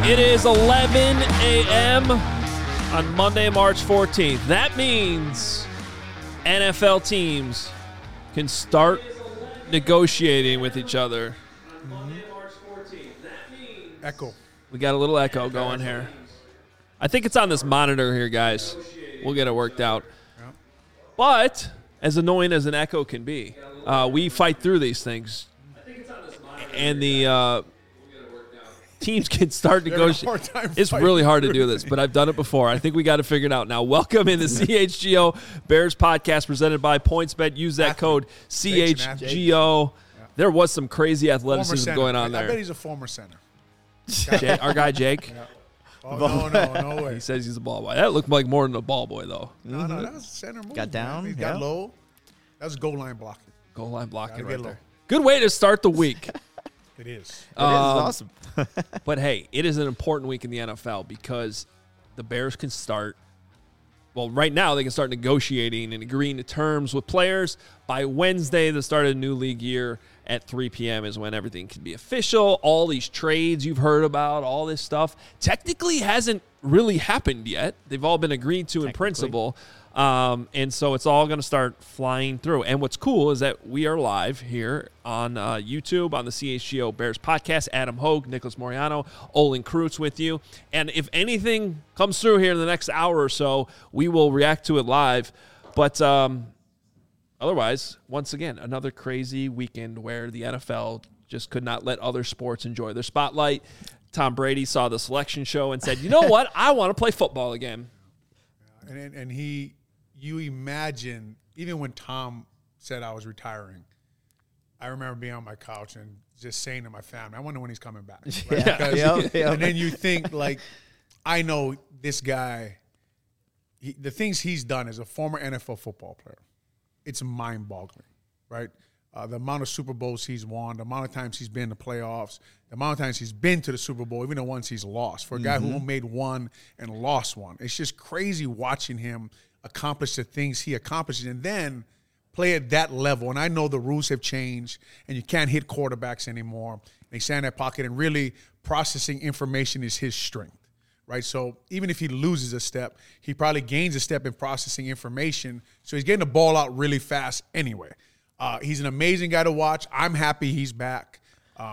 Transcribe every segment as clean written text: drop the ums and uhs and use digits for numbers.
It is 11 a.m. on Monday, March 14th. That means NFL teams can start negotiating with each other. Echo. We got a little echo going here. I think it's on this monitor here, guys. We'll get it worked out. But as annoying as an echo can be, we fight through these things. And the teams can start negotiating. It's really hard to do this, but I've done it before. I think we got to figure it out now. Welcome in the CHGO Bears podcast presented by PointsBet. Use that code CHGO. There was some crazy athleticism going on there. I bet he's a former center. Our guy Jake. Yeah. Oh, no way. He says he's a ball boy. That looked like more than a ball boy, though. No, that was a center move. Got down. He got low. That was goal line blocking. Goal line blocking right low. there. Good way to start the week. It is. It is awesome. But, hey, it is an important week in the NFL because the Bears can start. Well, right now they can start negotiating and agreeing to terms with players. By Wednesday, the start of the new league year at 3 p.m. is when everything can be official. All these trades you've heard about, all this stuff, technically hasn't really happened yet. They've all been agreed to in principle. And so it's all going to start flying through. And what's cool is that we are live here on YouTube on the CHGO Bears podcast. Adam Hogue, Nicholas Moriano, Olin Kreutz with you. And if anything comes through here in the next hour or so, we will react to it live. But otherwise, once again, another crazy weekend where the NFL just could not let other sports enjoy their spotlight. Tom Brady saw the selection show and said, you know what? I want to play football again. And you imagine, even when Tom said I was retiring, I remember being on my couch and just saying to my family, I wonder when he's coming back. Right? And then you think, like, I know this guy, the things he's done as a former NFL football player, it's mind-boggling, right? The amount of Super Bowls he's won, the amount of times he's been in the playoffs, the amount of times he's been to the Super Bowl, even the ones he's lost. For a guy who made one and lost one, it's just crazy watching him accomplish the things he accomplishes and then play at that level. And I know the rules have changed and you can't hit quarterbacks anymore. They stay in that pocket and really processing information is his strength, right? So even if he loses a step, he probably gains a step in processing information. So he's getting the ball out really fast anyway. He's an amazing guy to watch. I'm happy he's back.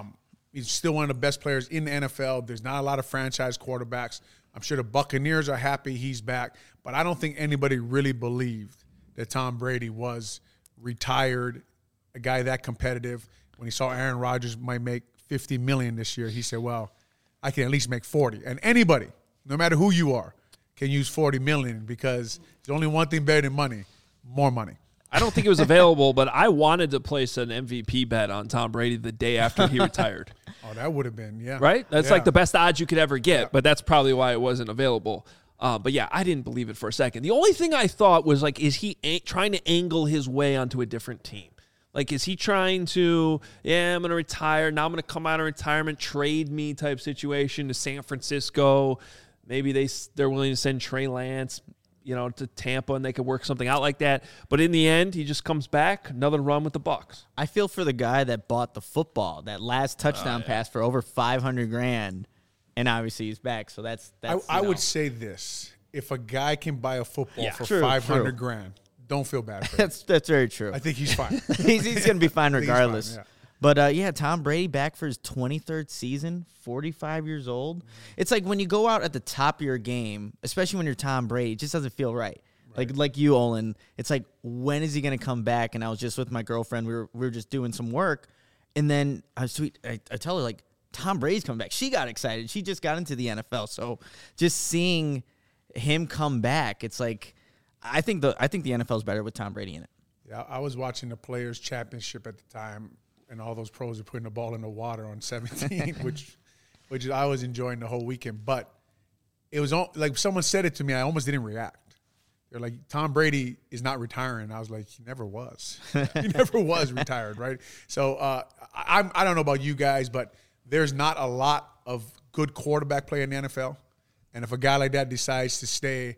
He's still one of the best players in the NFL. There's not a lot of franchise quarterbacks. I'm sure the Buccaneers are happy he's back. But I don't think anybody really believed that Tom Brady was retired, a guy that competitive. When he saw Aaron Rodgers might make $50 million this year, he said, well, I can at least make 40. And anybody, no matter who you are, can use $40 million because there's only one thing better than money, more money. I don't think it was available, but I wanted to place an MVP bet on Tom Brady the day after he retired. Oh, that would have been, yeah. Right? That's like the best odds you could ever get, but that's probably why it wasn't available. But, yeah, I didn't believe it for a second. The only thing I thought was, like, is he trying to angle his way onto a different team? Like, is he trying to, I'm going to retire, now I'm going to come out of retirement, trade me type situation to San Francisco? Maybe they're willing to send Trey Lance, to Tampa, and they could work something out like that. But in the end, he just comes back, another run with the Bucs. I feel for the guy that bought the football, that last touchdown pass for over $500,000, and obviously he's back. So that's I would say this: if a guy can buy a football for $500,000, don't feel bad for him. That's very true. I think he's fine. he's going to be fine regardless. Fine, yeah. But, Tom Brady back for his 23rd season, 45 years old. It's like when you go out at the top of your game, especially when you're Tom Brady, it just doesn't feel right. Like you, Olin, it's like, when is he going to come back? And I was just with my girlfriend. We were just doing some work. And then I tell her, like, Tom Brady's coming back. She got excited. She just got into the NFL. So just seeing him come back, it's like, I think the NFL is better with Tom Brady in it. Yeah, I was watching the Players' Championship at the time, and all those pros are putting the ball in the water on 17, which I was enjoying the whole weekend. But it was like someone said it to me, I almost didn't react. They're like, Tom Brady is not retiring. I was like, he never was. He never was retired, right? So I don't know about you guys, but there's not a lot of good quarterback play in the NFL. And if a guy like that decides to stay,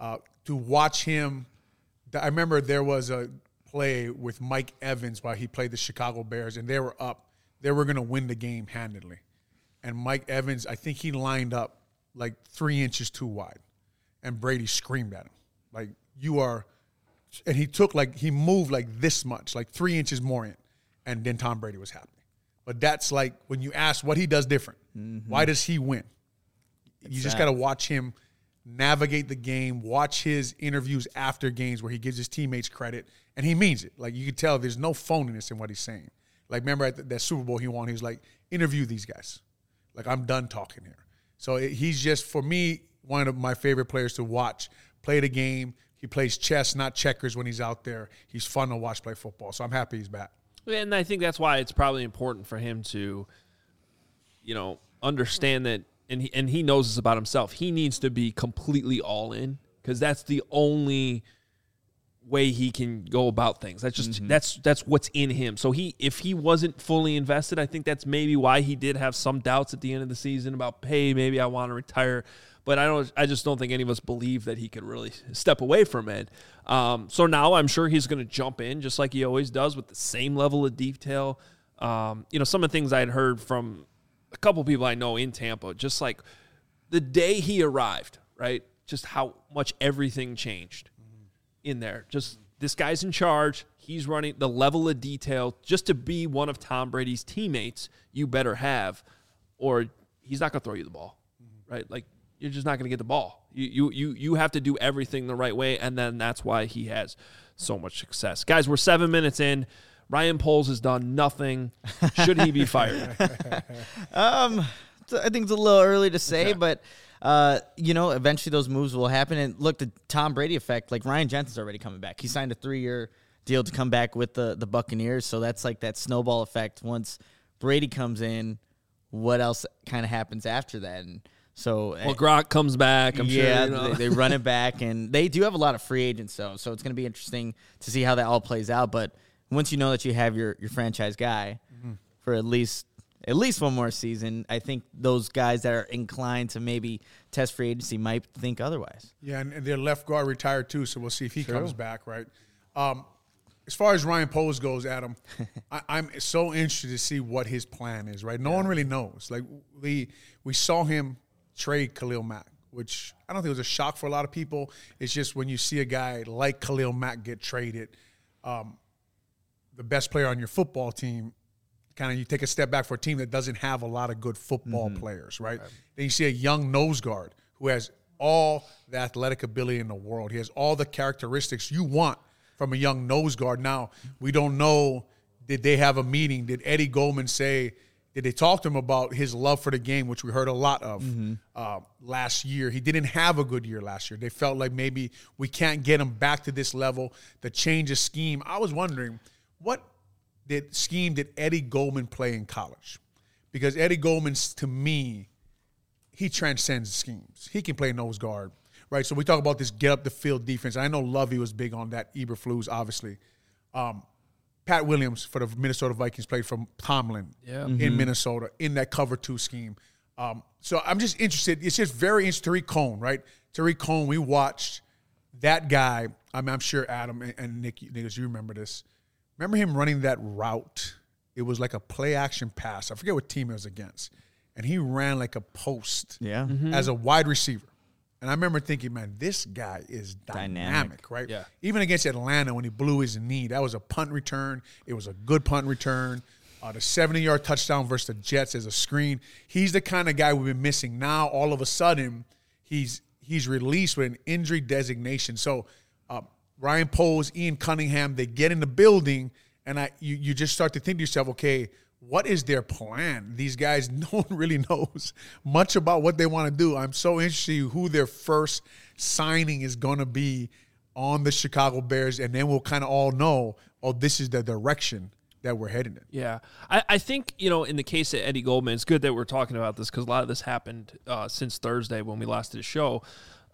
to watch him, I remember there was a play with Mike Evans while he played the Chicago Bears, and they were up. They were going to win the game handedly. and Mike Evans, I think he lined up like 3 inches too wide, and Brady screamed at him, like, you are, and he moved like this much, like 3 inches more in, and then Tom Brady was happy. But that's like when you ask what he does different, why does he win? You just got to watch him navigate the game, watch his interviews after games where he gives his teammates credit, and he means it. Like, you can tell there's no phoniness in what he's saying. Like, remember at that Super Bowl he won, he was like, interview these guys. Like, I'm done talking here. So he's just, for me, one of my favorite players to watch play the game. He plays chess, not checkers when he's out there. He's fun to watch play football. So I'm happy he's back. And I think that's why it's probably important for him to, understand that, and he knows this about himself. He needs to be completely all in, because that's the only way he can go about things. That's just that's what's in him. So if he wasn't fully invested, I think that's maybe why he did have some doubts at the end of the season about, hey, maybe I want to retire. But I just don't think any of us believe that he could really step away from it. So now I'm sure he's going to jump in just like he always does with the same level of detail. Some of the things I had heard from a couple people I know in Tampa, just like the day he arrived, right? Just how much everything changed in there. Just this guy's in charge. He's running the level of detail just to be one of Tom Brady's teammates. You better have, or he's not going to throw you the ball, right? Like, you're just not going to get the ball. You have to do everything the right way, and then that's why he has so much success. Guys, we're 7 minutes in. Ryan Poles has done nothing. Should he be fired? I think it's a little early to say, but eventually those moves will happen. And look, the Tom Brady effect, like Ryan Jensen's already coming back. He signed a 3-year deal to come back with the Buccaneers, so that's like that snowball effect. Once Brady comes in, what else kind of happens after that? And so, Gronk comes back. I'm sure. They run it back, and they do have a lot of free agents, so it's going to be interesting to see how that all plays out. But once you know that you have your franchise guy for at least one more season, I think those guys that are inclined to maybe test free agency might think otherwise. Yeah, and their left guard retired too, so we'll see if he comes back, right? As far as Ryan Poles goes, Adam, I'm so interested to see what his plan is, right? No one really knows. Like, we saw him trade Khalil Mack, which I don't think was a shock for a lot of people. It's just when you see a guy like Khalil Mack get traded, the best player on your football team, kind of you take a step back for a team that doesn't have a lot of good football players, right? Then you see a young nose guard who has all the athletic ability in the world. He has all the characteristics you want from a young nose guard. Now, we don't know, did they have a meeting? Did Eddie Goldman say, did they talk to him about his love for the game, which we heard a lot of last year? He didn't have a good year last year. They felt like maybe we can't get him back to this level. The change of scheme. I was wondering, what scheme did Eddie Goldman play in college? Because Eddie Goldman, to me, he transcends schemes. He can play nose guard, right? So we talk about this get-up-the-field defense. I know Lovey was big on that, Eberflus, obviously. Pat Williams for the Minnesota Vikings played from Tomlin in Minnesota in that cover 2 scheme. So I'm just interested. It's just very interesting. Tariq Cohen, right? Tariq Cohen, we watched that guy. I'm sure Adam and Nick, you remember this. Remember him running that route? It was like a play-action pass. I forget what team it was against. And he ran like a post as a wide receiver. And I remember thinking, man, this guy is dynamic, right? Yeah. Even against Atlanta when he blew his knee, that was a punt return. It was a good punt return. The 70-yard touchdown versus the Jets as a screen. He's the kind of guy we've been missing. Now, all of a sudden, he's released with an injury designation. So Ryan Poles, Ian Cunningham, they get in the building, and you just start to think to yourself, okay, what is their plan? These guys, no one really knows much about what they want to do. I'm so interested in who their first signing is going to be on the Chicago Bears, and then we'll kind of all know, oh, this is the direction that we're heading in. Yeah. I think, in the case of Eddie Goldman, it's good that we're talking about this because a lot of this happened since Thursday when we last did a show.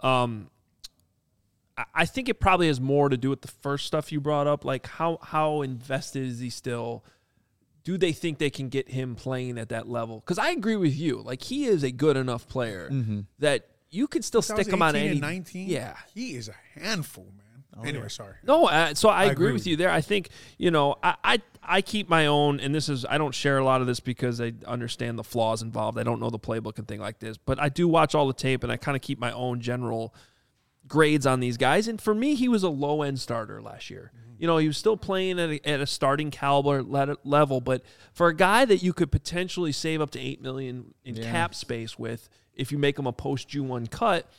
I think it probably has more to do with the first stuff you brought up, like how invested is he still? Do they think they can get him playing at that level? Because I agree with you. Like, he is a good enough player that you could still stick him on any. 19? Yeah. He is a handful, man. Anyway, sorry. No, so I agree with you there. I think, I I keep my own, and I don't share a lot of this because I understand the flaws involved. I don't know the playbook and thing like this, but I do watch all the tape, and I kind of keep my own general grades on these guys. And for me, he was a low-end starter last year. He was still playing at a starting caliber level, but for a guy that you could potentially save up to $8 million in cap space with if you make him a post-June 1 cut,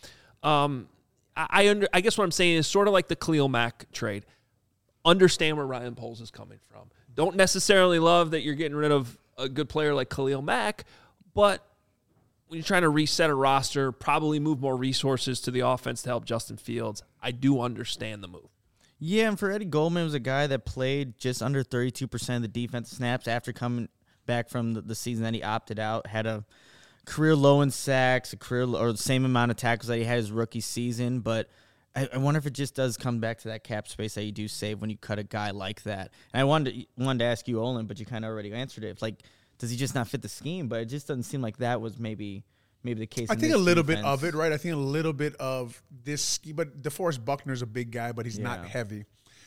I guess what I'm saying is sort of like the Khalil Mack trade. Understand where Ryan Poles is coming from. Don't necessarily love that you're getting rid of a good player like Khalil Mack, but when you're trying to reset a roster, probably move more resources to the offense to help Justin Fields, I do understand the move. Yeah, and for Eddie Goldman, was a guy that played just under 32% of the defensive snaps after coming back from the season that he opted out, had a career low in sacks, or the same amount of tackles that he had his rookie season, but I wonder if it just does come back to that cap space that you do save when you cut a guy like that. And I wanted to ask you, Olin, but you kind of already answered it. It's like, does he just not fit the scheme? But it just doesn't seem like that was maybe the case. I think a little bit of it, right? I think a little bit of this scheme. But DeForest Buckner's a big guy, but he's not heavy.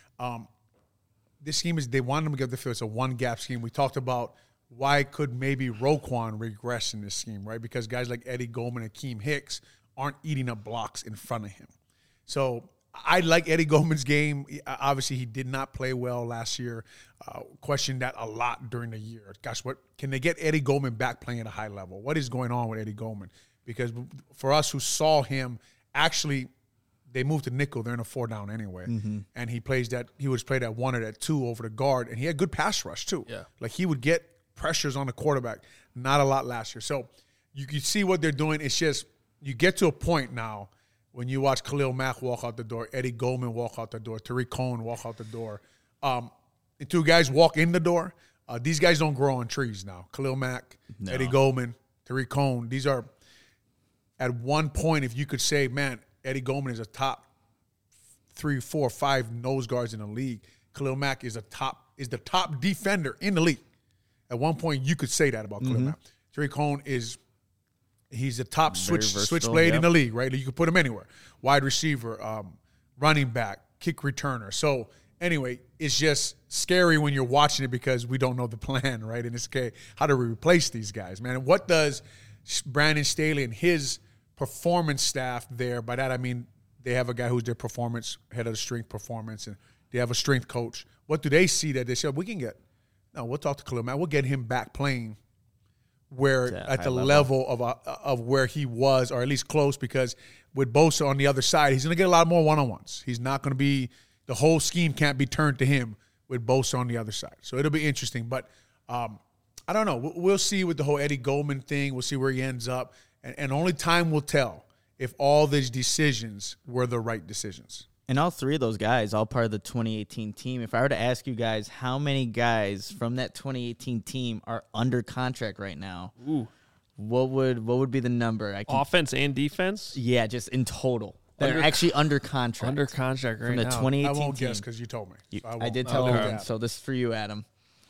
This scheme they wanted him to get the field. It's a one-gap scheme. We talked about why could maybe Roquan regress in this scheme, right? Because guys like Eddie Goldman and Akeem Hicks aren't eating up blocks in front of him. So I like Eddie Goldman's game. Obviously, he did not play well last year. Questioned that a lot during the year. Gosh, what can they get Eddie Goldman back playing at a high level? What is going on with Eddie Goldman? Because for us who saw him, actually, they moved to nickel. They're in a 4-down anyway, and he was played at 1 or at 2 over the guard, and he had good pass rush too. Yeah, like he would get pressures on the quarterback. Not a lot last year. So you can see what they're doing. It's just you get to a point now. When you watch Khalil Mack walk out the door, Eddie Goldman walk out the door, Tariq Cohen walk out the door, and two guys walk in the door, these guys don't grow on trees now. Khalil Mack, Eddie Goldman, Tariq Cohen, these are, at one point, if you could say, man, Eddie Goldman is a top 3, 4, 5 nose guards in the league. Khalil Mack is the top defender in the league. At one point, you could say that about Khalil Mack. Tariq Cohen he's the top switchblade in the league, right? You can put him anywhere. Wide receiver, running back, kick returner. So anyway, it's just scary when you're watching it because we don't know the plan, right? And it's okay, how do we replace these guys, man? And what does Brandon Staley and his performance staff there, by that I mean they have a guy who's their performance, head of the strength performance, and they have a strength coach. What do they see that they say, we'll talk to Khalil Mack. We'll get him back playing where at the level of where he was, or at least close, because with Bosa on the other side, he's going to get a lot more one-on-ones. He's not going to be – the whole scheme can't be turned to him with Bosa on the other side. So it'll be interesting. But I don't know. We'll see with the whole Eddie Goldman thing. We'll see where he ends up. And only time will tell if all these decisions were the right decisions. And all three of those guys, all part of the 2018 team. If I were to ask you guys how many guys from that 2018 team are under contract right now, what would be the number? Offense and defense? Yeah, just in total. They're actually under contract. Under contract right from the now. 2018 I won't team. guess because you told me. I did tell him. So this is for you, Adam.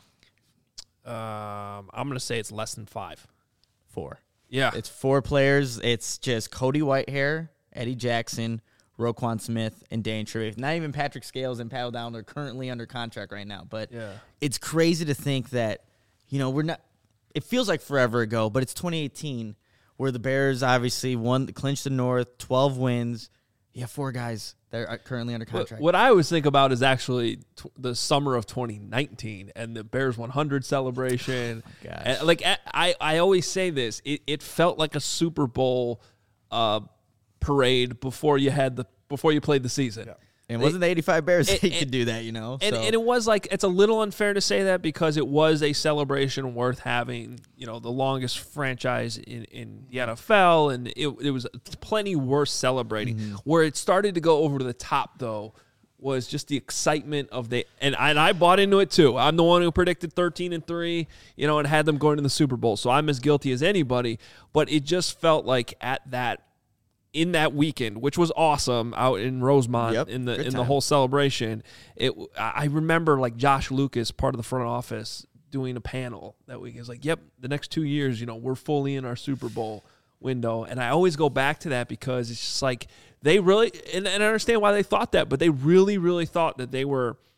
I'm going to say it's less than 5. 4. Yeah. It's 4 players. It's just Cody Whitehair, Eddie Jackson, Roquan Smith, and Dane Trevay. Not even Patrick Scales and Paddle Down. They're currently under contract right now. But it's crazy to think that, we're not – it feels like forever ago, but it's 2018 where the Bears obviously clinched the North, 12 wins. You have 4 guys that are currently under contract. What I always think about is actually the summer of 2019 and the Bears 100 celebration. Oh gosh. And I always say this. It felt like a Super Bowl parade before you played the season. Yeah. And wasn't the 85 Bears that could do that, And it was like, it's a little unfair to say that because it was a celebration worth having, the longest franchise in the NFL, and it was plenty worth celebrating. Where it started to go over to the top, though, was just the excitement of and I bought into it too. I'm the one who predicted 13-3, and had them going to the Super Bowl. So I'm as guilty as anybody, but it just felt like in that weekend, which was awesome out in Rosemont in the whole celebration, I remember like Josh Lucas, part of the front office, doing a panel that week. He was like, "Yep, the next 2 years, we're fully in our Super Bowl window." And I always go back to that because it's just like they really, and I understand why they thought that, but they really, really thought that they were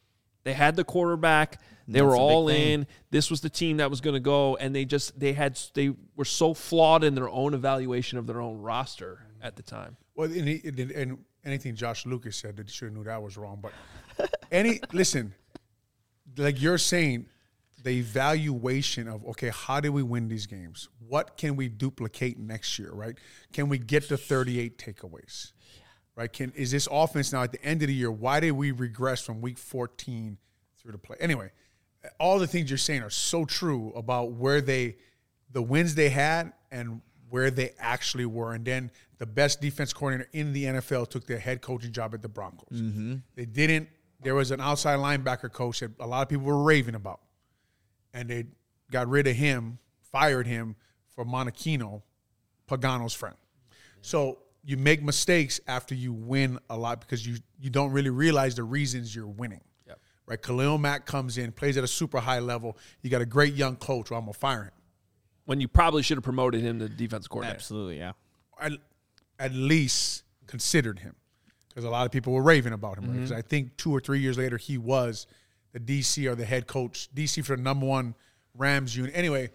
They had the quarterback. They That's were a big all thing. in. This was the team that was going to go, and they were so flawed in their own evaluation of their own roster at the time. Well, and anything Josh Lucas said that you should have knew that was wrong. But listen, like you're saying, the evaluation of, okay, how did we win these games? What can we duplicate next year, right? Can we get to 38 takeaways, right? Is this offense now at the end of the year, why did we regress from week 14 through the play? Anyway, all the things you're saying are so true about the wins they had and where they actually were. And then the best defense coordinator in the NFL took their head coaching job at the Broncos. There was an outside linebacker coach that a lot of people were raving about. And they got rid of him, fired him for Monachino, Pagano's friend. So you make mistakes after you win a lot because you don't really realize the reasons you're winning. Yep. Right? Khalil Mack comes in, plays at a super high level. You got a great young coach, well, I'm going to fire him. When you probably should have promoted him to defense coordinator. Absolutely, yeah. At least considered him because a lot of people were raving about him. Because I think 2 or 3 years later, he was the DC or the head coach, DC for the number 1 Rams unit. Anyway,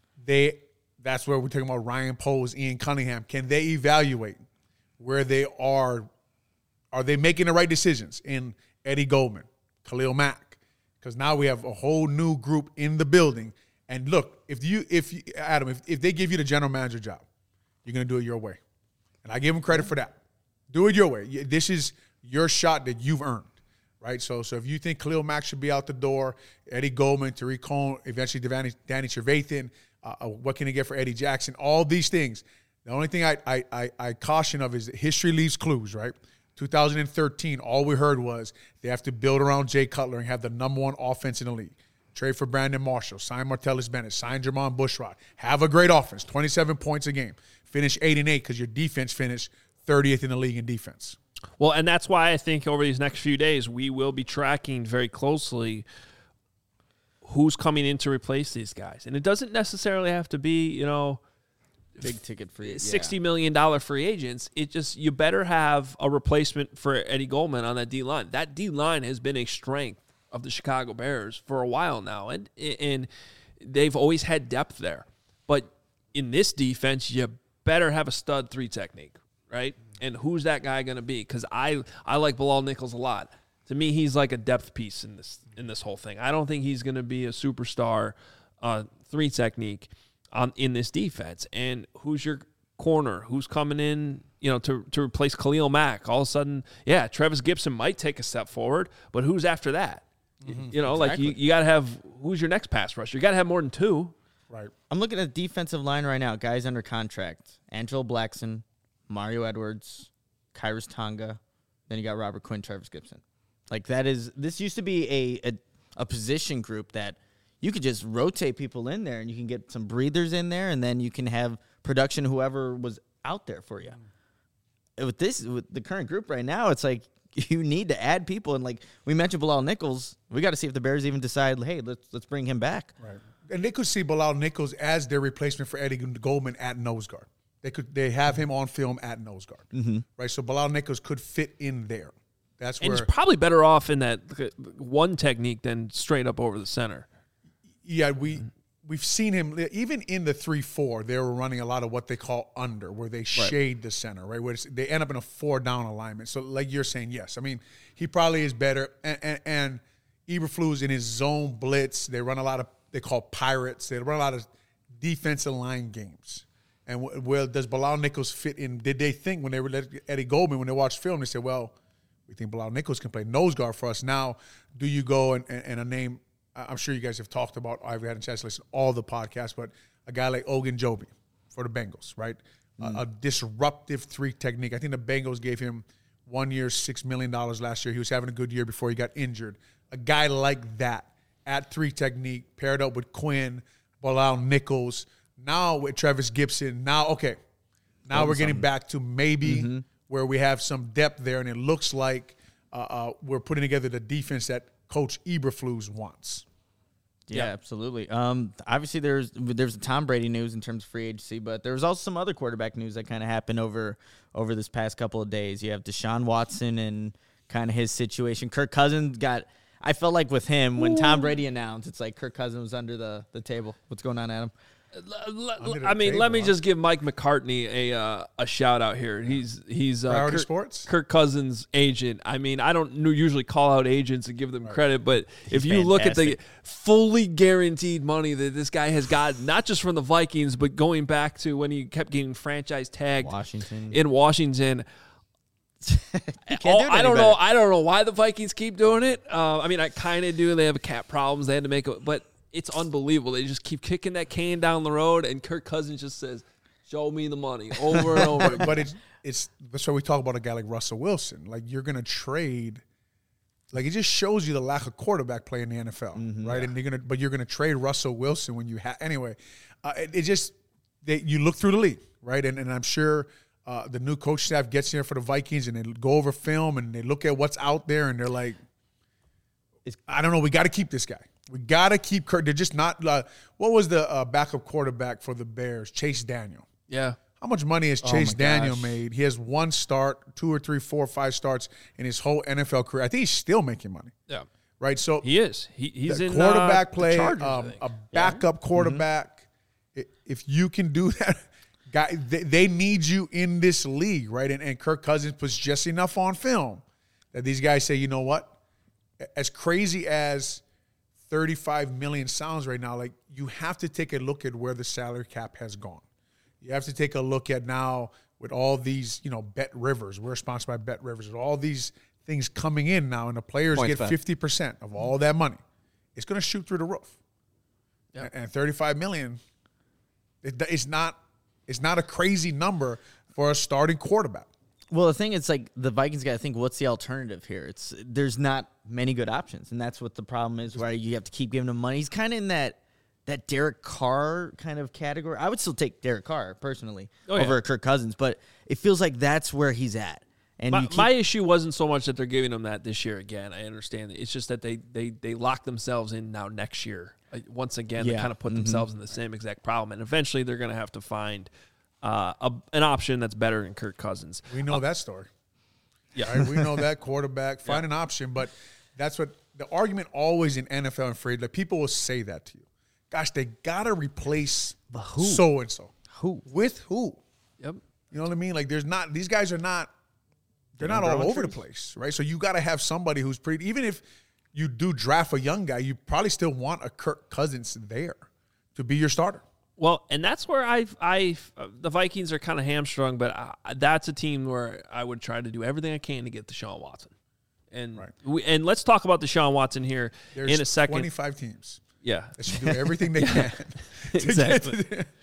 that's where we're talking about Ryan Poles, Ian Cunningham. Can they evaluate where they are? Are they making the right decisions in Eddie Goldman, Khalil Mack? Because now we have a whole new group in the building. And look, if Adam, if they give you the general manager job, you're going to do it your way. And I give them credit for that. Do it your way. This is your shot that you've earned. Right, so if you think Khalil Mack should be out the door, Eddie Goldman, Tariq Cohen, eventually Danny Trevathan, what can they get for Eddie Jackson? All these things. The only thing I caution of is that history leaves clues. Right, 2013, all we heard was they have to build around Jay Cutler and have the number 1 offense in the league. Trade for Brandon Marshall, sign Martellus Bennett, sign Jermon Bushrod. Have a great offense, 27 points a game. Finish 8-8 because your defense finished 30th in the league in defense. Well, and that's why I think over these next few days, we will be tracking very closely who's coming in to replace these guys. And it doesn't necessarily have to be, Big ticket free $60 million free agents. It just, you better have a replacement for Eddie Goldman on that D-line. That D-line has been a strength of the Chicago Bears for a while now. And they've always had depth there. But in this defense, you better have a stud 3 technique, right? And who's that guy going to be? Because I like Bilal Nichols a lot. To me, he's like a depth piece in this whole thing. I don't think he's going to be a superstar 3 technique in this defense. And who's your corner? Who's coming in, to replace Khalil Mack? All of a sudden, yeah, Travis Gibson might take a step forward, but who's after that? Exactly. Like you got to have, who's your next pass rusher? You got to have more than 2. Right. I'm looking at the defensive line right now. Guys under contract: Angelo Blackson, Mario Edwards, Kyrus Tonga, then you got Robert Quinn, Travis Gibson. Like this used to be a position group that you could just rotate people in there and you can get some breathers in there and then you can have production whoever was out there for you. With the current group right now, it's like you need to add people. And like we mentioned Bilal Nichols, we got to see if the Bears even decide, hey, let's bring him back. Right. And they could see Bilal Nichols as their replacement for Eddie Goldman at nose guard. They have him on film at nose guard, right? So Bilal Nichols could fit in there. That's and where he's probably better off in that 1 technique than straight up over the center. Yeah, we've seen him even in the 3-4. They were running a lot of what they call under, where they shade the center, right? Where they end up in a 4-down alignment. So, like you're saying, yes, I mean he probably is better. And Eberflus in his zone blitz, they run a lot of they call pirates. They run a lot of defensive line games. And well, does Bilal Nichols fit in? Did they think when they were Eddie Goldman, when they watched film, they said, well, we think Bilal Nichols can play nose guard for us. Now, do you go and a name, I'm sure you guys have talked about, I've had a chance to listen to all the podcasts, but a guy like Ogunjobi for the Bengals, right? A disruptive 3 technique. I think the Bengals gave him 1 year, $6 million last year. He was having a good year before he got injured. A guy like that at 3 technique, paired up with Quinn, Bilal Nichols, now with Travis Gibson. Now we're getting back to maybe where we have some depth there, and it looks like we're putting together the defense that Coach Eberflus wants. Yeah, absolutely. Obviously, there's the Tom Brady news in terms of free agency, but there was also some other quarterback news that kind of happened over this past couple of days. You have Deshaun Watson and kind of his situation. Kirk Cousins got I felt like with him, when Tom Brady announced, it's like Kirk Cousins was under the table. What's going on, Adam? Let me just give Mike McCartney a shout out here. He's Kirk Cousins' agent. I mean, I don't usually call out agents and give them credit, but if you look at the fully guaranteed money that this guy has got, not just from the Vikings, but going back to when he kept getting franchise tagged in Washington. I don't know why the Vikings keep doing it. I mean, I kind of do. They have cap problems. They had to make it, but it's unbelievable. They just keep kicking that can down the road, and Kirk Cousins just says, "Show me the money," over and over. But that's why we talk about a guy like Russell Wilson. Like, you're going to trade. Like, it just shows you the lack of quarterback play in the NFL, right? Yeah. And you're gonna trade Russell Wilson when you have anyway. You look through the league, right? And I'm sure the new coach staff gets in there for the Vikings, and they go over film and they look at what's out there, and they're like, I don't know. We got to keep this guy. We got to keep Kirk. They're just not what was the backup quarterback for the Bears? Chase Daniel. Yeah. How much money has Chase Daniel made? He has 1 start, 2 or 3, 4 or 5 starts in his whole NFL career. I think he's still making money. Yeah. Right? So he is. He's in quarterback play, Chargers, a backup quarterback. If you can do that, guy, they need you in this league, right? And Kirk Cousins puts just enough on film that these guys say, you know what? As crazy as $35 million sounds right now, like, you have to take a look at where the salary cap has gone. You have to take a look at now with all these, Bet Rivers. We're sponsored by Bet Rivers. With all these things coming in now, and the players get 50% of all that money. It's going to shoot through the roof. Yep. And $35 million, it's not a crazy number for a starting quarterback. Well, the thing is, like, the Vikings got to think, what's the alternative here? There's not many good options, and that's what the problem is, where you have to keep giving him money. He's kind of in that Derek Carr kind of category. I would still take Derek Carr, personally, over Kirk Cousins, but it feels like that's where he's at. And my issue wasn't so much that they're giving him that this year again. I understand it. It's just that they lock themselves in now next year. Once again, they kind of put themselves in the same exact problem, and eventually they're going to have to find an option that's better than Kirk Cousins. We know that story. Yeah. Right? We know that quarterback. Find an option, but that's what the argument always in NFL and afraid. Like, people will say that to you. Gosh, they got to replace so-and-so. Who? With who? Yep. You know what I mean? Like, these guys are not, they're not all over the place, right? So you got to have somebody who's even if you do draft a young guy, you probably still want a Kirk Cousins there to be your starter. Well, and that's where the Vikings are kind of hamstrung, but that's a team where I would try to do everything I can to get Deshaun Watson. And and let's talk about Deshaun Watson here in a second. 25 teams. Yeah. They should do everything they can. Exactly.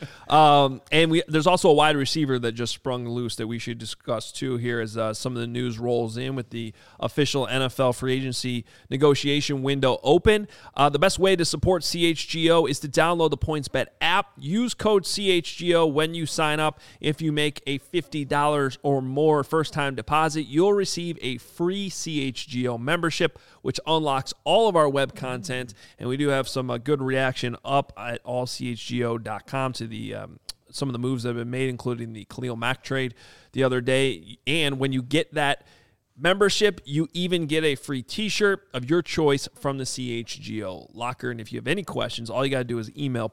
And there's also a wide receiver that just sprung loose that we should discuss too here as some of the news rolls in with the official NFL free agency negotiation window open. The best way to support CHGO is to download the PointsBet app. Use code CHGO when you sign up. If you make a $50 or more first-time deposit, you'll receive a free CHGO membership, which unlocks all of our web content. And we do have some good reaction up at allchgo.com to the some of the moves that have been made, including the Khalil Mack trade the other day. And when you get that membership, you even get a free t-shirt of your choice from the CHGO locker. And if you have any questions, all you got to do is email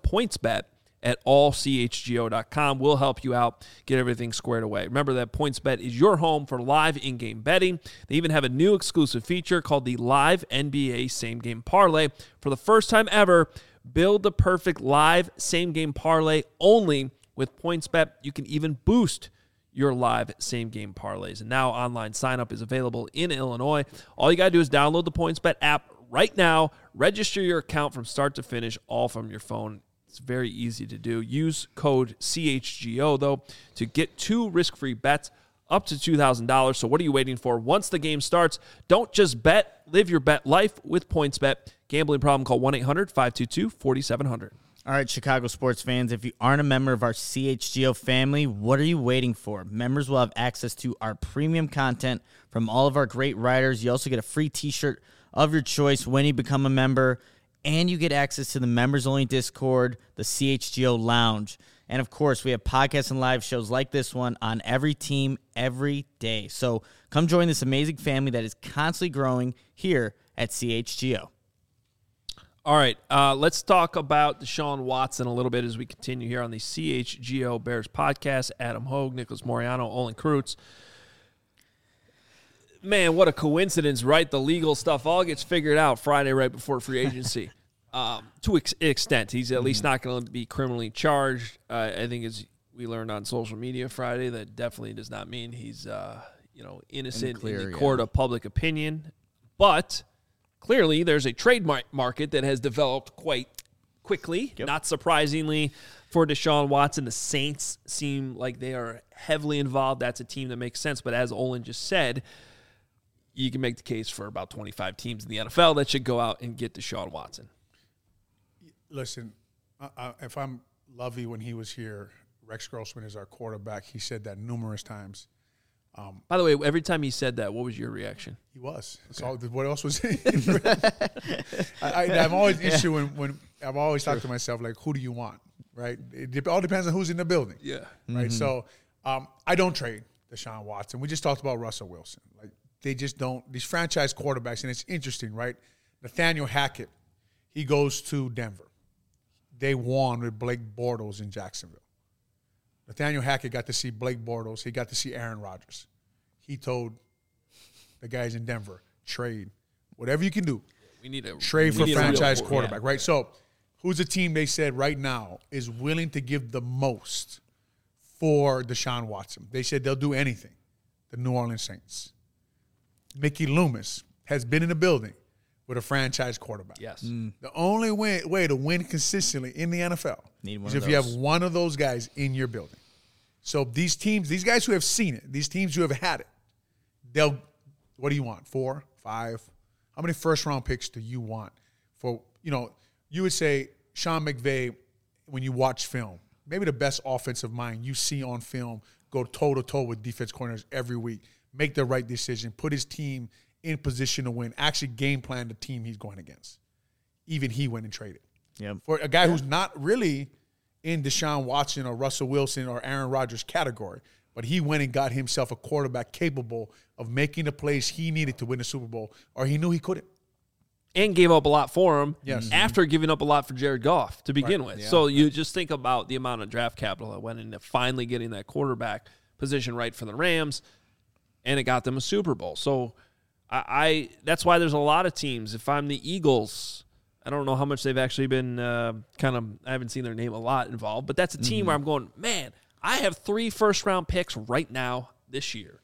pointsbet@allchgo.com. We'll help you out, get everything squared away. Remember that PointsBet is your home for live in-game betting. They even have a new exclusive feature called the Live NBA Same Game Parlay. For the first time ever, build the perfect live same-game parlay only with PointsBet. You can even boost your live same-game parlays. And now online sign-up is available in Illinois. All you got to do is download the PointsBet app right now. Register your account from start to finish, all from your phone. It's very easy to do. Use code CHGO, though, to get 2 risk-free bets up to $2,000. So what are you waiting for? Once the game starts, don't just bet. Live your bet life with PointsBet. Gambling problem, call 1-800-522-4700. All right, Chicago sports fans, if you aren't a member of our CHGO family, what are you waiting for? Members will have access to our premium content from all of our great writers. You also get a free t-shirt of your choice when you become a member. And you get access to the members-only Discord, the CHGO Lounge. And, of course, we have podcasts and live shows like this one on every team, every day. So come join this amazing family that is constantly growing here at CHGO. All right, let's talk about Deshaun Watson a little bit as we continue here on the CHGO Bears podcast. Adam Hogue, Nicholas Moriano, Olin Kreutz. Man, what a coincidence, right? The legal stuff all gets figured out Friday right before free agency. To extent, he's at least not going to be criminally charged. I think as we learned on social media Friday, that definitely does not mean he's innocent in the court of public opinion. But clearly there's a trade market that has developed quite quickly. Yep. Not surprisingly for Deshaun Watson, the Saints seem like they are heavily involved. That's a team that makes sense. But as Olin just said, you can make the case for about 25 teams in the NFL that should go out and get Deshaun Watson. Listen, if I'm Lovey when he was here, Rex Grossman is our quarterback. He said that numerous times. By the way, every time he said that, what was your reaction? He was. Okay. So what else was it? I'm always issuing when I've always talked to myself, like, who do you want, right? It all depends on who's in the building. Yeah. Right. Mm-hmm. So I don't trade Deshaun Watson. We just talked about Russell Wilson. Like, they just don't. These franchise quarterbacks, and it's interesting, right? Nathaniel Hackett, he goes to Denver. They won with Blake Bortles in Jacksonville. Nathaniel Hackett got to see Blake Bortles. He got to see Aaron Rodgers. He told the guys in Denver, trade. Whatever you can do. We need a trade for franchise quarterback, right? So who's a team they said right now is willing to give the most for Deshaun Watson? They said they'll do anything. The New Orleans Saints. Mickey Loomis has been in the building with a franchise quarterback. Yes. The only way to win consistently in the NFL is if you have one of those guys in your building. So these teams, these guys who have seen it, these teams who have had it, they'll, what do you want? 4, 5? How many first-round picks do you want? For, you would say Sean McVay, when you watch film, maybe the best offensive mind you see on film, go toe-to-toe with defense corners every week, make the right decision, put his team in position to win, actually game plan the team he's going against. Even he went and traded. Yep. For a guy who's not really in Deshaun Watson or Russell Wilson or Aaron Rodgers category, but he went and got himself a quarterback capable of making the plays he needed to win the Super Bowl, or he knew he couldn't. And gave up a lot for him after giving up a lot for Jared Goff to begin with. Yeah. So you just think about the amount of draft capital that went into finally getting that quarterback position right for the Rams, and it got them a Super Bowl. So I that's why there's a lot of teams. If I'm the Eagles, I don't know how much they've actually been I haven't seen their name a lot involved, but that's a team where I'm going, man, I have 3 first-round picks right now this year.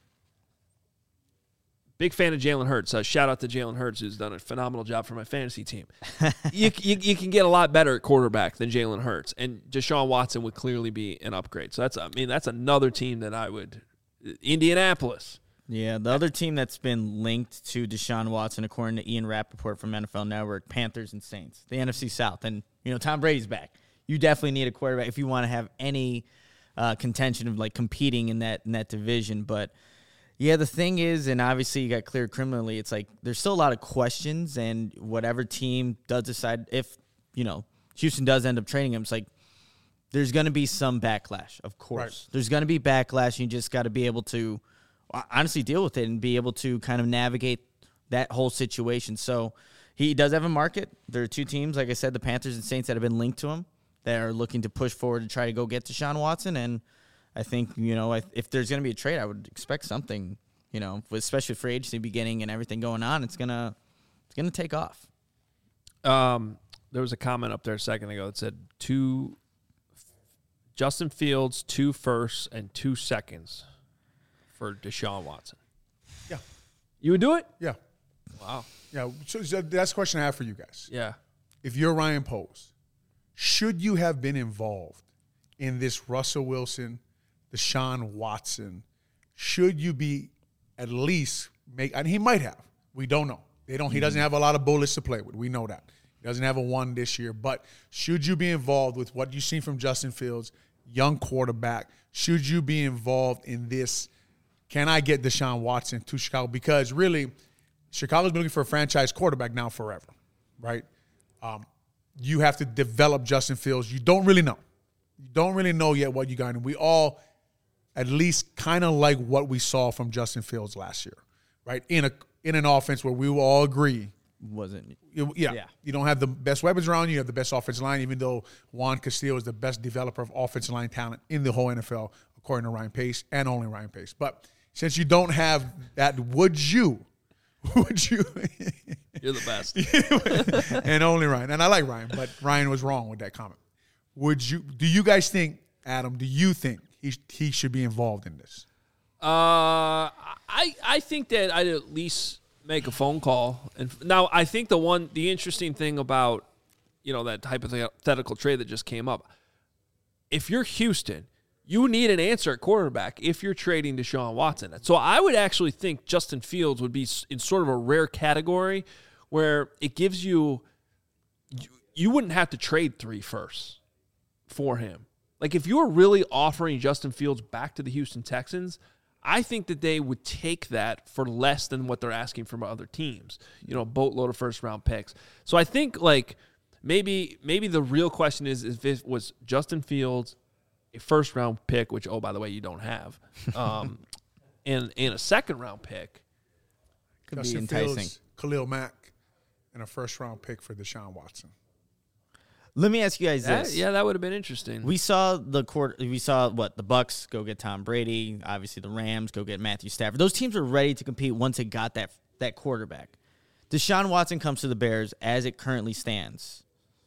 Big fan of Jalen Hurts. Shout out to Jalen Hurts, who's done a phenomenal job for my fantasy team. You can get a lot better at quarterback than Jalen Hurts, and Deshaun Watson would clearly be an upgrade. So that's another team that I would – Indianapolis. Yeah, the other team that's been linked to Deshaun Watson, according to Ian Rappaport from NFL Network, Panthers and Saints, the NFC South. And, Tom Brady's back. You definitely need a quarterback if you want to have any contention of, competing in that division. But, yeah, the thing is, and obviously you got cleared criminally, it's there's still a lot of questions, and whatever team does decide, if, Houston does end up trading him, it's there's going to be some backlash, of course. Right. There's going to be backlash, and you just got to be able to honestly deal with it and be able to kind of navigate that whole situation. So he does have a market. There are 2 teams, like I said, the Panthers and Saints, that have been linked to him that are looking to push forward to try to go get Deshaun Watson. And I think, if there's going to be a trade, I would expect something, especially with free agency beginning and everything going on, it's going to take off. There was a comment up there a second ago that said Justin Fields, 2 firsts and 2 seconds for Deshaun Watson. Yeah. You would do it? Yeah. Wow. Yeah. So that's the question I have for you guys. Yeah. If you're Ryan Poles, should you have been involved in this Russell Wilson, Deshaun Watson? Should you be at least and he might have. We don't know. He doesn't have a lot of bullets to play with. We know that. He doesn't have a 1 this year. But should you be involved with what you've seen from Justin Fields, young quarterback? Should you be involved in this? Can I get Deshaun Watson to Chicago? Because really, Chicago's been looking for a franchise quarterback now forever, right? You have to develop Justin Fields. You don't really know. You don't really know yet what you got. And we all at least kind of like what we saw from Justin Fields last year, right? In an offense where we will all agree wasn't. You don't have the best weapons around you. You have the best offensive line, even though Juan Castillo is the best developer of offensive line talent in the whole NFL, according to Ryan Pace, and only Ryan Pace. But since you don't have that, would you? You're the best. And only Ryan. And I like Ryan, but Ryan was wrong with that comment. Do you guys think, Adam, do you think he should be involved in this? I think that I'd at least make a phone call. And now I think the interesting thing about, that hypothetical trade that just came up, if you're Houston, you need an answer at quarterback if you're trading Deshaun Watson. So I would actually think Justin Fields would be in sort of a rare category where it gives you wouldn't have to trade 3 firsts for him. Like if you were really offering Justin Fields back to the Houston Texans, I think that they would take that for less than what they're asking from other teams. A boatload of first-round picks. So I think maybe the real question is if it was Justin Fields, a first-round pick, which, oh, by the way, you don't have, and a second-round pick. Could Justin be enticing. Fields, Khalil Mack, and a first-round pick for Deshaun Watson. Let me ask you guys this. Yeah, that would have been interesting. We saw the Bucks go get Tom Brady. Obviously, the Rams go get Matthew Stafford. Those teams were ready to compete once it got that quarterback. Deshaun Watson comes to the Bears as it currently stands.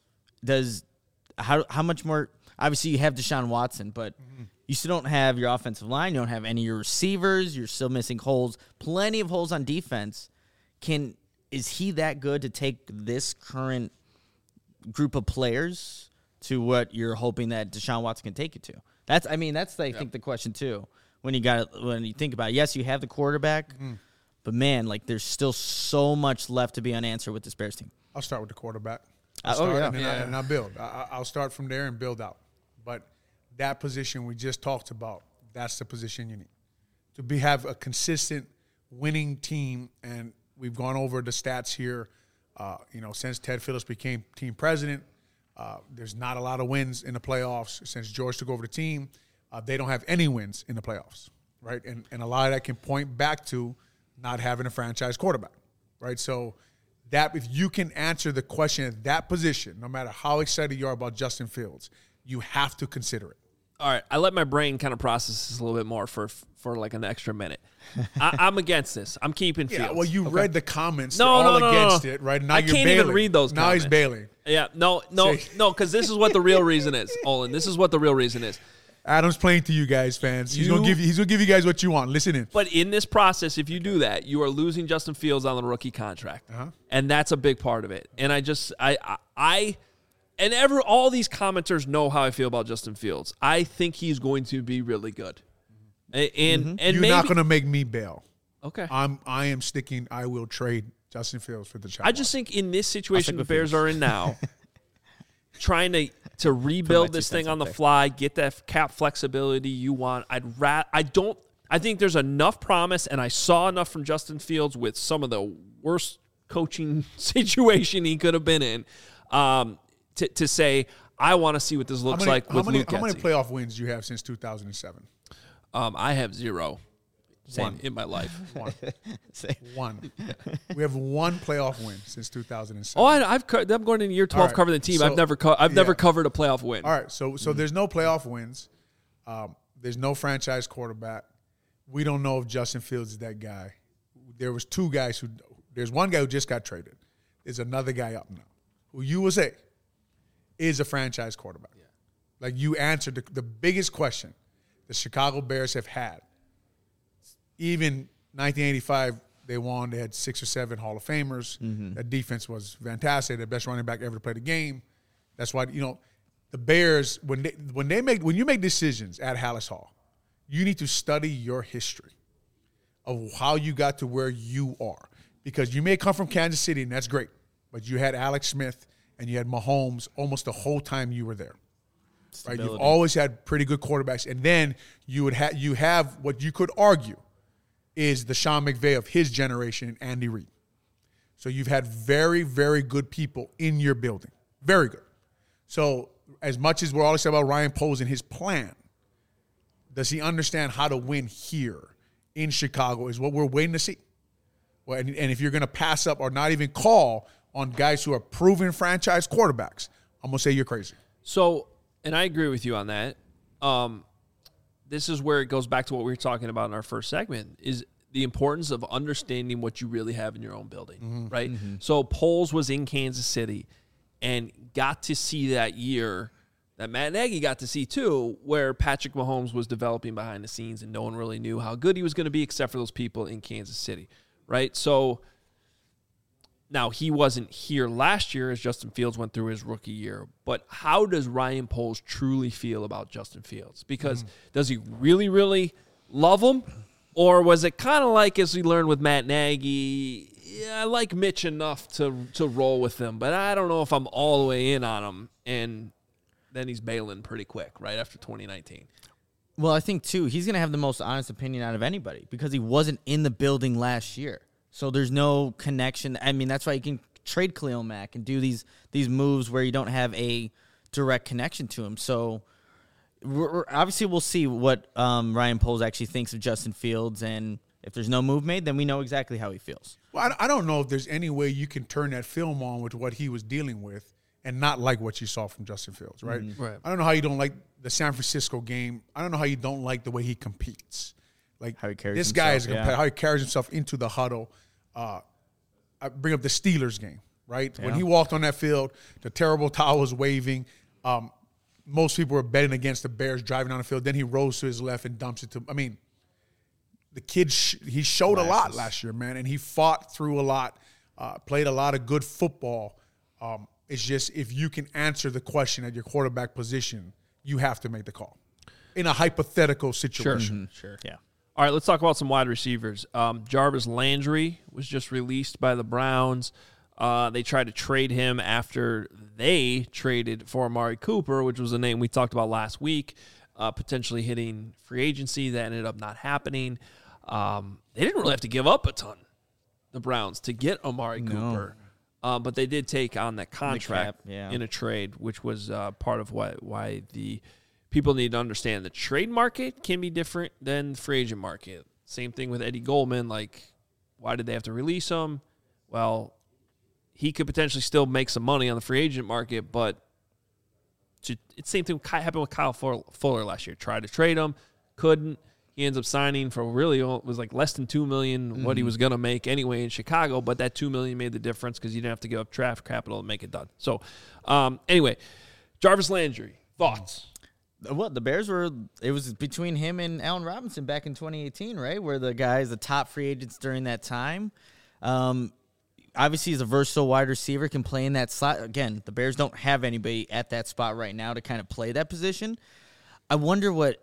How much more? Obviously, you have Deshaun Watson, but you still don't have your offensive line. You don't have any of your receivers. You're still missing holes. Plenty of holes on defense. Is he that good to take this current group of players to what you're hoping that Deshaun Watson can take you to? That's I think the question too. When you think about it, yes, you have the quarterback, but man, there's still so much left to be unanswered with this Bears team. I'll start with the quarterback. And I'll build. I'll start from there and build out. But that position we just talked about, that's the position you need to have a consistent winning team. And we've gone over the stats here. Since Ted Phillips became team president, there's not a lot of wins in the playoffs. Since George took over the team, they don't have any wins in the playoffs, right? And a lot of that can point back to not having a franchise quarterback, right? So that if you can answer the question at that position, no matter how excited you are about Justin Fields, you have to consider it. All right, I let my brain kind of process this a little bit more for an extra minute. I'm against this. I'm keeping Fields. Yeah, well, you read the comments. No, against it, right? Now I you're can't bailing. even read those comments. Now he's bailing. Yeah, no, because this is what the real reason is, Olin. This is what the real reason is. Adam's playing to you guys, fans. He's gonna give you guys what you want. Listen in. But in this process, if you do that, you are losing Justin Fields on the rookie contract, and that's a big part of it. And all these commenters know how I feel about Justin Fields. I think he's going to be really good. And you're not going to make me bail. Okay. I am sticking. I will trade Justin Fields for the Deshaun. I just think in this situation the Bears are in now, trying to rebuild this thing on the fly, get that cap flexibility you want. I think there's enough promise, and I saw enough from Justin Fields with some of the worst coaching situation he could have been in. To say, I want to see what this looks like with Luke Getsy. How many playoff wins do you have since 2007? I have 0. One in my life. One. We have 1 playoff win since 2007. Oh, I'm going into year 12 covering the team. So, I've never covered a playoff win. All right, so there's no playoff wins. There's no franchise quarterback. We don't know if Justin Fields is that guy. There was 2 guys there's one guy who just got traded. There's another guy up now who you will say is a franchise quarterback. Yeah. Like you answered the biggest question the Chicago Bears have had. Even 1985, they won. They had 6 or 7 Hall of Famers. Mm-hmm. That defense was fantastic. The best running back ever to play the game. That's why the Bears when you make decisions at Hallis Hall, you need to study your history of how you got to where you are, because you may come from Kansas City and that's great, but you had Alex Smith and you had Mahomes almost the whole time you were there. Right? You've always had pretty good quarterbacks, and then you have what you could argue is the Sean McVay of his generation, Andy Reid. So you've had very, very good people in your building. Very good. So as much as we're always talking about Ryan Poles and his plan, does he understand how to win here in Chicago is what we're waiting to see. Well, and if you're going to pass up or not even call on guys who are proven franchise quarterbacks, I'm going to say you're crazy. So, and I agree with you on that. This is where it goes back to what we were talking about in our first segment, is the importance of understanding what you really have in your own building, right? Mm-hmm. So Poles was in Kansas City and got to see that year that Matt Nagy got to see too, where Patrick Mahomes was developing behind the scenes and no one really knew how good he was going to be except for those people in Kansas City, right? So now he wasn't here last year as Justin Fields went through his rookie year, but how does Ryan Poles truly feel about Justin Fields? Because does he really, really love him? Or was it kind of like, as we learned with Matt Nagy, I like Mitch enough to roll with him, but I don't know if I'm all the way in on him. And then he's bailing pretty quick right after 2019. Well, I think, too, he's going to have the most honest opinion out of anybody because he wasn't in the building last year. So there's no connection. I mean, that's why you can trade Khalil Mack and do these moves where you don't have a direct connection to him. So obviously we'll see what Ryan Poles actually thinks of Justin Fields, and if there's no move made, then we know exactly how he feels. Well, I don't know if there's any way you can turn that film on with what he was dealing with and not like what you saw from Justin Fields, right? Mm-hmm. Right. I don't know how you don't like the San Francisco game. I don't know how you don't like the way he competes. Like how he carries this himself, guy is how he carries himself into the huddle. I bring up the Steelers game, right? Yeah. When he walked on that field, the terrible towel was waving. Most people were betting against the Bears driving on the field. Then he rolls to his left and dumps it to – I mean, the kid he showed a lot last year, man, and he fought through a lot, played a lot of good football. It's just if you can answer the question at your quarterback position, you have to make the call in a hypothetical situation. Sure. Yeah. All right, let's talk about some wide receivers. Jarvis Landry was just released by the Browns. They tried to trade him after they traded for Amari Cooper, which was a name we talked about last week, potentially hitting free agency. That ended up not happening. They didn't really have to give up a ton, the Browns, to get Amari Cooper. But they did take on that contract in a trade, which was part of why the people need to understand the trade market can be different than the free agent market. Same thing with Eddie Goldman. Like, why did they have to release him? Well, he could potentially still make some money on the free agent market, but it's the same thing happened with Kyle Fuller last year. Tried to trade him, couldn't. He ends up signing for it was like less than $2 million, what he was going to make anyway in Chicago, but that $2 million made the difference because you didn't have to give up draft capital to make it done. So, anyway, Jarvis Landry, thoughts? Well, the Bears it was between him and Allen Robinson back in 2018, right? Where the top free agents during that time. Obviously, he's a versatile wide receiver, can play in that slot. Again, the Bears don't have anybody at that spot right now to kind of play that position. I wonder what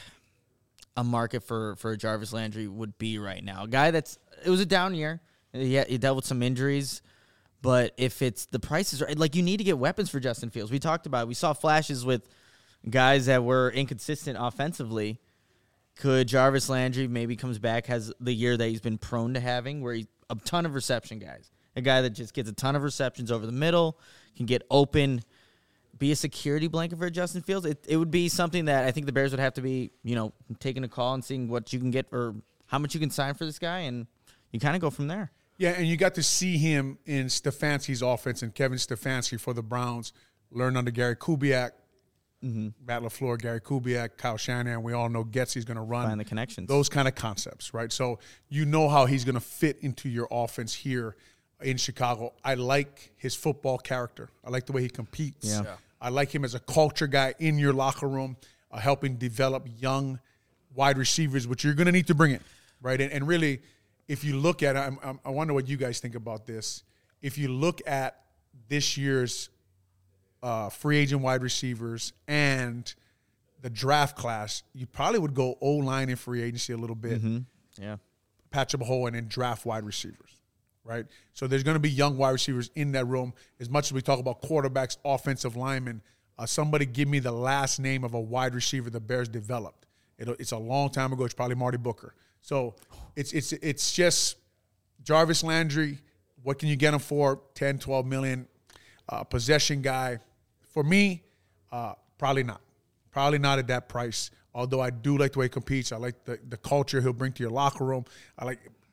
a market for Jarvis Landry would be right now. A guy it was a down year. He dealt with some injuries. But if it's the prices, like, you need to get weapons for Justin Fields. We talked about it. We saw flashes with guys that were inconsistent offensively. Could Jarvis Landry maybe comes back, has the year that he's been prone to having, where he's a ton of reception guys. A guy that just gets a ton of receptions over the middle, can get open, be a security blanket for Justin Fields. It would be something that I think the Bears would have to be, taking a call and seeing what you can get or how much you can sign for this guy, and you kind of go from there. Yeah, and you got to see him in Stefanski's offense and Kevin Stefanski for the Browns, learn under Gary Kubiak, Matt LaFleur, Gary Kubiak, Kyle Shanahan. We all know Getsy's going to run. Find the connections. Those kind of concepts, right? So you know how he's going to fit into your offense here in Chicago. I like his football character. I like the way he competes. Yeah. I like him as a culture guy in your locker room, helping develop young wide receivers, which you're going to need to bring in, right? And really, if you look at it, I wonder what you guys think about this. If you look at this year's free agent wide receivers and the draft class, you probably would go O-line in free agency a little bit, patch up a hole, and then draft wide receivers, right? So there's going to be young wide receivers in that room. As much as we talk about quarterbacks, offensive linemen, somebody give me the last name of a wide receiver the Bears developed. It's a long time ago. It's probably Marty Booker. So it's just Jarvis Landry. What can you get him for? 10, 12 million. Possession guy. For me, probably not. Probably not at that price. Although I do like the way he competes. I like the culture he'll bring to your locker room.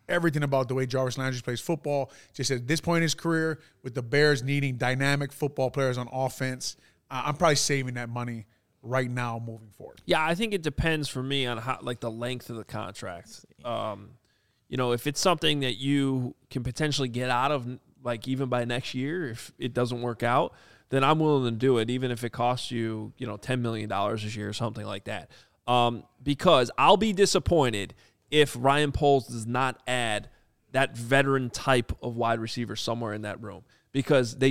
everything about the way Jarvis Landry plays football. Just at this point in his career, with the Bears needing dynamic football players on offense, I'm probably saving that money right now moving forward. Yeah, I think it depends for me on how, like, the length of the contract. If it's something that you can potentially get out of, like, even by next year, if it doesn't work out, then I'm willing to do it, even if it costs you, $10 million this year or something like that. Because I'll be disappointed if Ryan Poles does not add that veteran type of wide receiver somewhere in that room, because they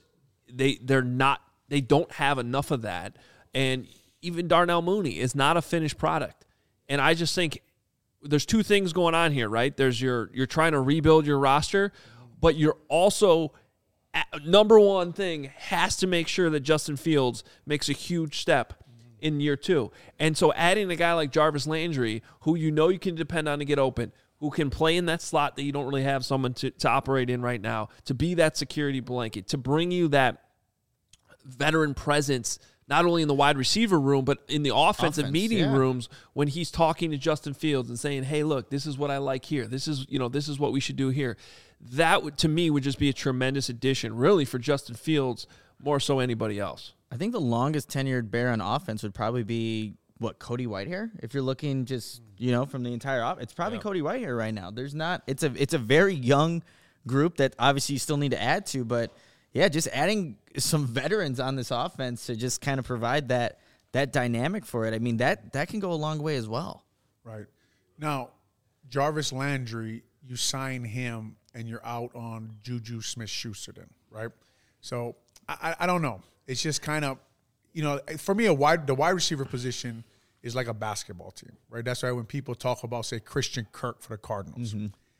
don't have enough of that. And even Darnell Mooney is not a finished product. And I just think there's two things going on here, right? There's you're trying to rebuild your roster, but you're also, number one thing has to make sure that Justin Fields makes a huge step in year 2. And so adding a guy like Jarvis Landry, who you can depend on to get open, who can play in that slot that you don't really have someone to operate in right now, to be that security blanket, to bring you that veteran presence, not only in the wide receiver room, but in the offensive meeting rooms when he's talking to Justin Fields and saying, hey, look, this is what I like here. This is what we should do here. That, to me, would just be a tremendous addition, really, for Justin Fields, more so anybody else. I think the longest tenured Bear on offense would probably be, Cody Whitehair? If you're looking just, from the entire it's probably Cody Whitehair right now. There's not – it's a very young group that obviously you still need to add to, but, yeah, just adding some veterans on this offense to just kind of provide that dynamic for it. I mean, that can go a long way as well. Right. Now, Jarvis Landry, you sign him and you're out on Juju Smith-Schuster then, right? So, I don't know. It's just kind of, for me, the wide receiver position is like a basketball team, right? That's why when people talk about, say, Christian Kirk for the Cardinals,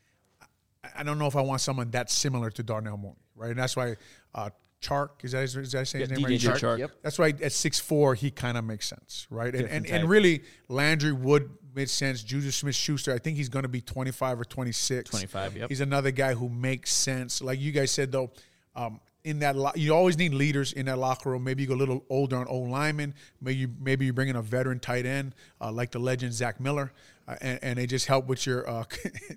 I don't know if I want someone that's similar to Darnell Mooney, right? And that's why Chark, is that saying his name right? DJ Chark. Yep. That's why at 6'4", he kind of makes sense, right? And really, Landry would make sense. Juju Smith-Schuster, I think he's going to be 25 or 26. 25, yep. He's another guy who makes sense. Like you guys said, though, in that you always need leaders in that locker room. Maybe you go a little older on O-linemen. Maybe you bring in a veteran tight end like the legend Zach Miller, and they just help with your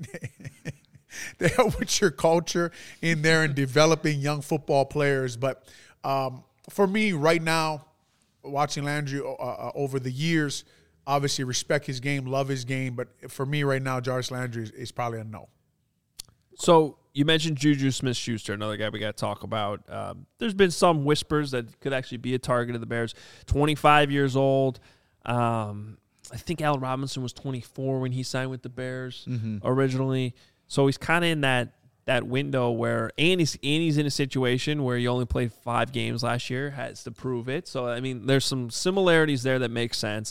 they help with your culture in there and developing young football players. But for me right now, watching Landry over the years, obviously respect his game, love his game. But for me right now, Jarvis Landry is probably a no. So you mentioned Juju Smith-Schuster, another guy we got to talk about. There's been some whispers that could actually be a target of the Bears. 25 years old. I think Allen Robinson was 24 when he signed with the Bears originally. So he's kind of in that window where he's in a situation where he only played 5 games last year, has to prove it. So, I mean, there's some similarities there that make sense.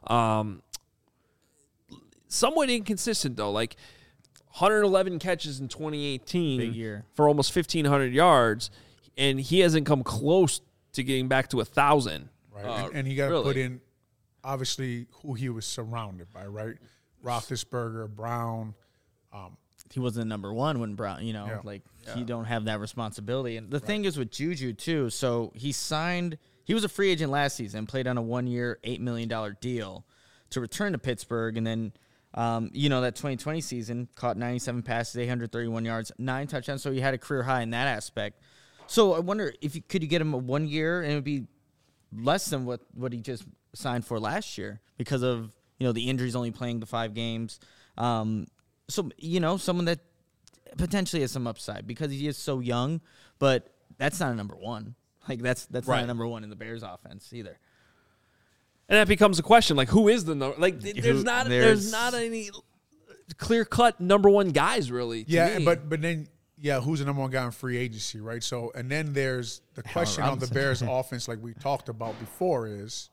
Somewhat inconsistent, though. Like, 111 catches in 2018 Big year. For almost 1,500 yards, and he hasn't come close to getting back to 1,000. Right, and he got to put in, obviously, who he was surrounded by, right? Roethlisberger, Brown. He wasn't number one when Brown, you don't have that responsibility. And the thing is with Juju, too, so he was a free agent last season, played on a 1-year, $8 million deal to return to Pittsburgh, and then that 2020 season, caught 97 passes, 831 yards, 9 touchdowns, so he had a career high in that aspect. So I wonder could you get him a 1 year, and it would be less than what he just signed for last year because of, the injuries, only playing the 5 games. So, someone that potentially has some upside because he is so young, but that's not a number one. Like, that's not a number one in the Bears offense either. And that becomes a question, like, who is the number? Like, there's not any clear-cut number one guys, really, to me. But then, who's the number one guy in free agency, right? So, and then there's the question on the Bears offense, like we talked about before, is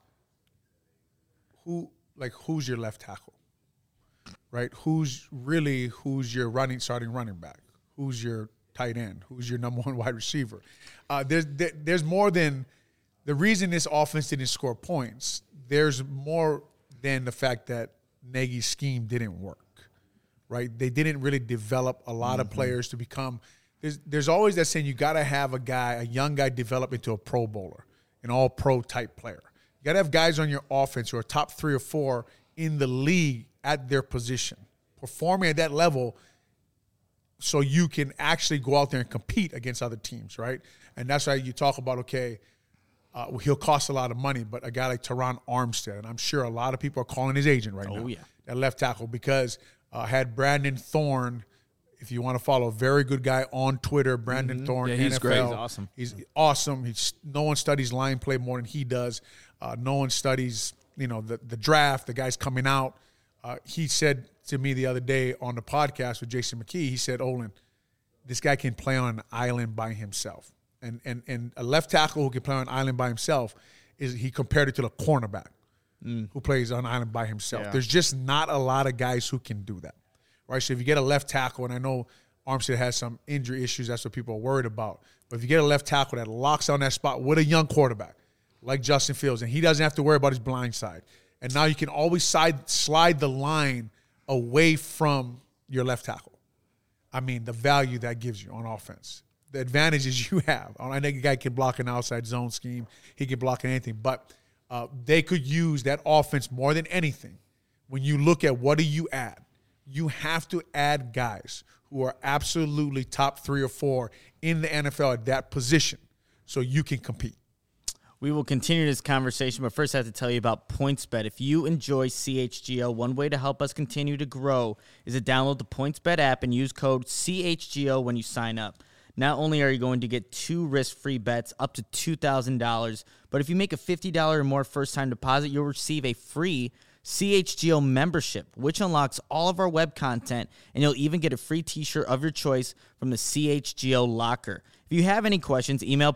who's your left tackle, right? Who's your starting running back? Who's your tight end? Who's your number one wide receiver? There's more than the reason this offense didn't score points. There's more than the fact that Nagy's scheme didn't work, right? They didn't really develop a lot of players to become. There's always that saying you got to have a young guy develop into a Pro Bowler, an all-pro type player. You got to have guys on your offense who are top 3 or 4 in the league at their position, performing at that level. so you can actually go out there and compete against other teams, right? And that's why you talk about, okay, he'll cost a lot of money, but a guy like Teron Armstead, and I'm sure a lot of people are calling his agent right now, that left tackle, because had Brandon Thorne, if you want to follow, a very good guy on Twitter, Brandon Thorne, he's NFL. great. He's awesome. He's awesome. No one studies line play more than he does. No one studies, the draft, the guys coming out. He said to me the other day on the podcast with Jason McKee, he said, Olin, this guy can play on an island by himself. And a left tackle who can play on an island by himself, he compared it to the cornerback who plays on an island by himself. Yeah. There's just not a lot of guys who can do that, right? So if you get a left tackle, and I know Armstead has some injury issues, that's what people are worried about. But if you get a left tackle that locks on that spot with a young quarterback like Justin Fields, and he doesn't have to worry about his blind side, and now you can always slide the line away from your left tackle. I mean, the value that gives you on offense. The advantages you have. I think a guy can block an outside zone scheme. He can block anything. But they could use that offense more than anything. When you look at what do you add, you have to add guys who are absolutely top 3 or 4 in the NFL at that position so you can compete. We will continue this conversation, but first I have to tell you about PointsBet. If you enjoy CHGO, one way to help us continue to grow is to download the PointsBet app and use code CHGO when you sign up. Not only are you going to get 2 risk-free bets up to $2,000, but if you make a $50 or more first-time deposit, you'll receive a free CHGO membership, which unlocks all of our web content, and you'll even get a free t-shirt of your choice from the CHGO locker. If you have any questions, email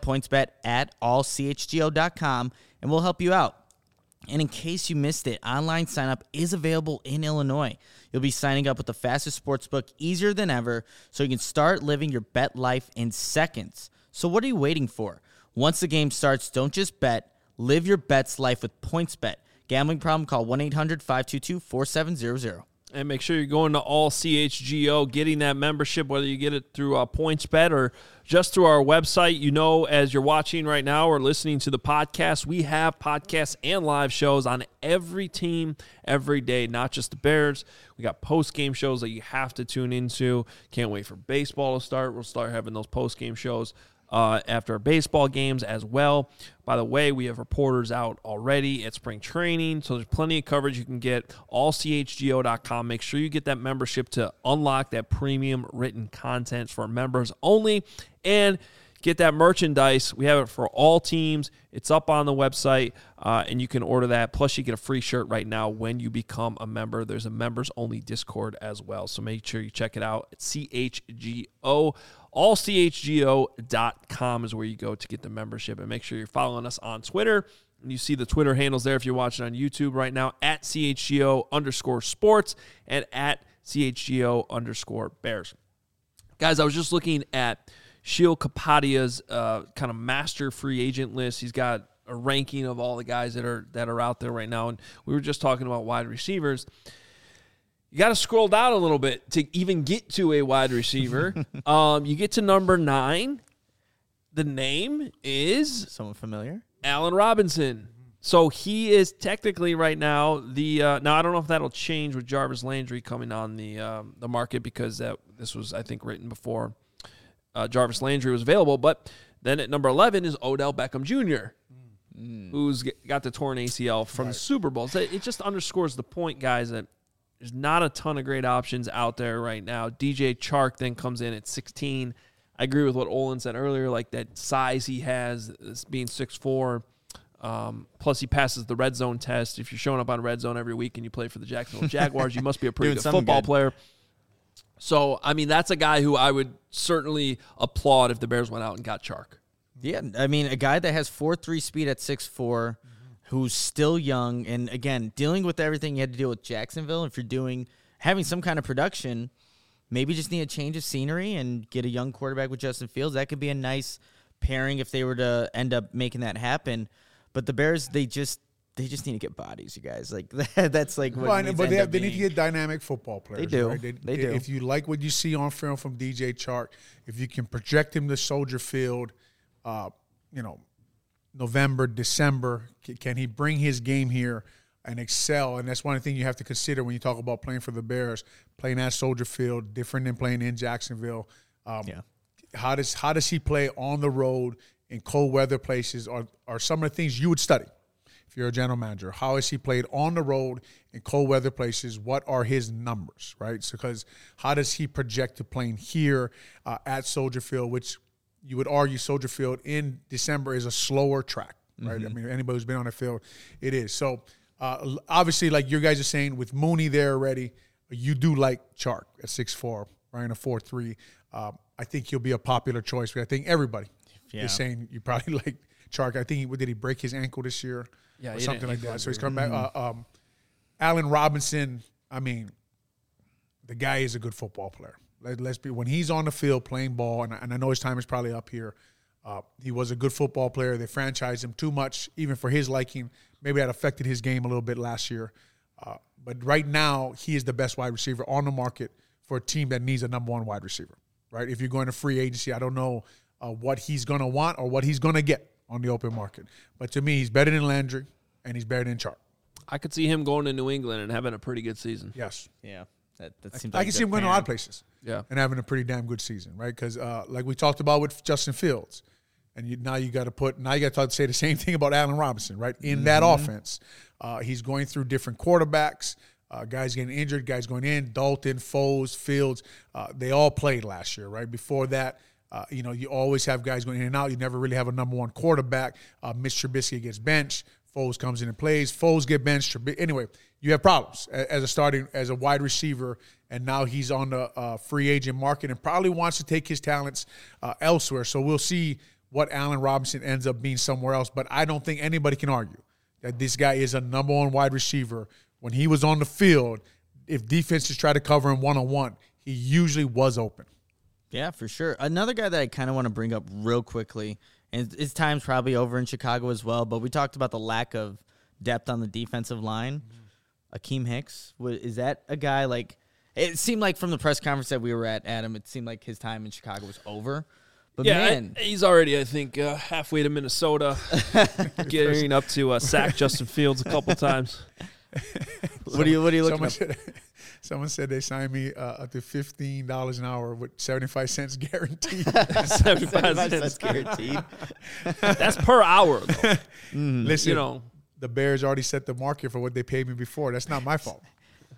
pointsbet@allchgo.com, and we'll help you out. And in case you missed it, online sign-up is available in Illinois. You'll be signing up with the fastest sportsbook, easier than ever, so you can start living your bet life in seconds. So what are you waiting for? Once the game starts, don't just bet. Live your bet's life with PointsBet. Gambling problem? Call 1-800-522-4700. And make sure you're going to All CHGO, getting that membership, whether you get it through PointsBet or just through our website. As you're watching right now or listening to the podcast, we have podcasts and live shows on every team every day, not just the Bears. We got post-game shows that you have to tune into. Can't wait for baseball to start. We'll start having those post-game shows after baseball games as well. By the way, we have reporters out already at spring training, so there's plenty of coverage you can get. AllCHGO.com. Make sure you get that membership to unlock that premium written content for members only, and get that merchandise. We have it for all teams. It's up on the website, and you can order that. Plus, you get a free shirt right now when you become a member. There's a members-only Discord as well, so make sure you check it out at CHGO. AllCHGO.com is where you go to get the membership. And make sure you're following us on Twitter. And you see the Twitter handles there if you're watching on YouTube right now, at CHGO_sports and at CHGO_Bears. Guys, I was just looking at Sheil Kapadia's kind of master free agent list. He's got a ranking of all the guys that are out there right now. And we were just talking about wide receivers. You got to scroll down a little bit to even get to a wide receiver. You get to number 9. The name is... Someone familiar? Allen Robinson. So he is technically right now the... now, I don't know if that'll change with Jarvis Landry coming on the market, because this was, I think, written before Jarvis Landry was available. But then at number 11 is Odell Beckham Jr., who's got the torn ACL from the Super Bowl. So it just underscores the point, guys, that there's not a ton of great options out there right now. DJ Chark then comes in at 16. I agree with what Olin said earlier, like that size he has, being 6'4". Plus, he passes the red zone test. If you're showing up on red zone every week and you play for the Jacksonville Jaguars, you must be a pretty good football player. So, I mean, that's a guy who I would certainly applaud if the Bears went out and got Chark. Yeah, I mean, a guy that has 4.3 speed at 6'4", who's still young, and again, dealing with everything you had to deal with Jacksonville. If you're having some kind of production, maybe just need a change of scenery and get a young quarterback with Justin Fields. That could be a nice pairing if they were to end up making that happen. But the Bears, they just need to get bodies, you guys. Like that's like what. Well, but they need to get dynamic football players. They do. Right? They do. If you like what you see on film from DJ Chark, if you can project him to Soldier Field, November, December, can he bring his game here? and excel. And that's one thing you have to consider when you talk about playing for the Bears, playing at Soldier Field, different than playing in Jacksonville. How does he play on the road in cold weather places are some of the things you would study if you're a general manager. How has he played on the road in cold weather places? What are his numbers, right? So, because how does he project to playing here at Soldier Field, which you would argue Soldier Field in December is a slower track, right? I mean, anybody who's been on the field, it is. So, obviously, like you guys are saying, with Mooney there already, you do like Chark at 6'4", running a 4.3. I think he'll be a popular choice. But I think everybody is saying you probably like Chark. I think did he break his ankle this year? Yeah, or something like that. So he's coming back. Allen Robinson, I mean, the guy is a good football player. Let's be, when he's on the field playing ball, and I know his time is probably up here, he was a good football player. They franchised him too much, even for his liking. Maybe that affected his game a little bit last year. But right now, he is the best wide receiver on the market for a team that needs a number one wide receiver, right? If you're going to free agency, I don't know what he's going to want or what he's going to get on the open market. But to me, he's better than Landry, and he's better than Chark. I could see him going to New England and having a pretty good season. Yes. Yeah. That seems I like can see him going to a lot of places. Yeah. And having a pretty damn good season, right? Because like we talked about with Justin Fields, and now you got to say the same thing about Allen Robinson, right? In that offense, he's going through different quarterbacks, guys getting injured, guys going in, Dalton, Foles, Fields, they all played last year, right? Before that, you always have guys going in and out. You never really have a number one quarterback. Mitch Trubisky gets benched. Foles comes in and plays. Foles get benched. Anyway, you have problems as a wide receiver, and now he's on the free agent market and probably wants to take his talents elsewhere. So we'll see what Allen Robinson ends up being somewhere else. But I don't think anybody can argue that this guy is a number one wide receiver. When he was on the field, if defenses try to cover him one-on-one, he usually was open. Yeah, for sure. Another guy that I kind of want to bring up real quickly, and his time's probably over in Chicago as well, but we talked about the lack of depth on the defensive line. Akeem Hicks, is that a guy like – it seemed like from the press conference that we were at, Adam, it seemed like his time in Chicago was over. But man, he's already, I think, halfway to Minnesota, getting up to sack Justin Fields a couple times. What are you looking at? Someone said they signed me up to $15 an hour with 75 cents guaranteed. 75 cents guaranteed. That's per hour, though. Listen, the Bears already set the market for what they paid me before. That's not my fault.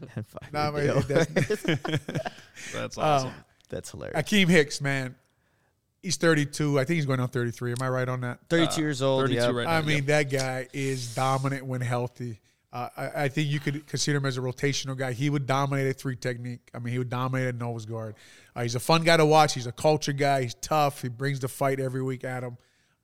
That's awesome. That's hilarious. Akeem Hicks, man. He's 32. I think he's going on 33. Am I right on that? 32 years old. 32 right now. I mean, that guy is dominant when healthy. I think you could consider him as a rotational guy. He would dominate at three technique. I mean, he would dominate at nose guard. He's a fun guy to watch. He's a culture guy. He's tough. He brings the fight every week at him.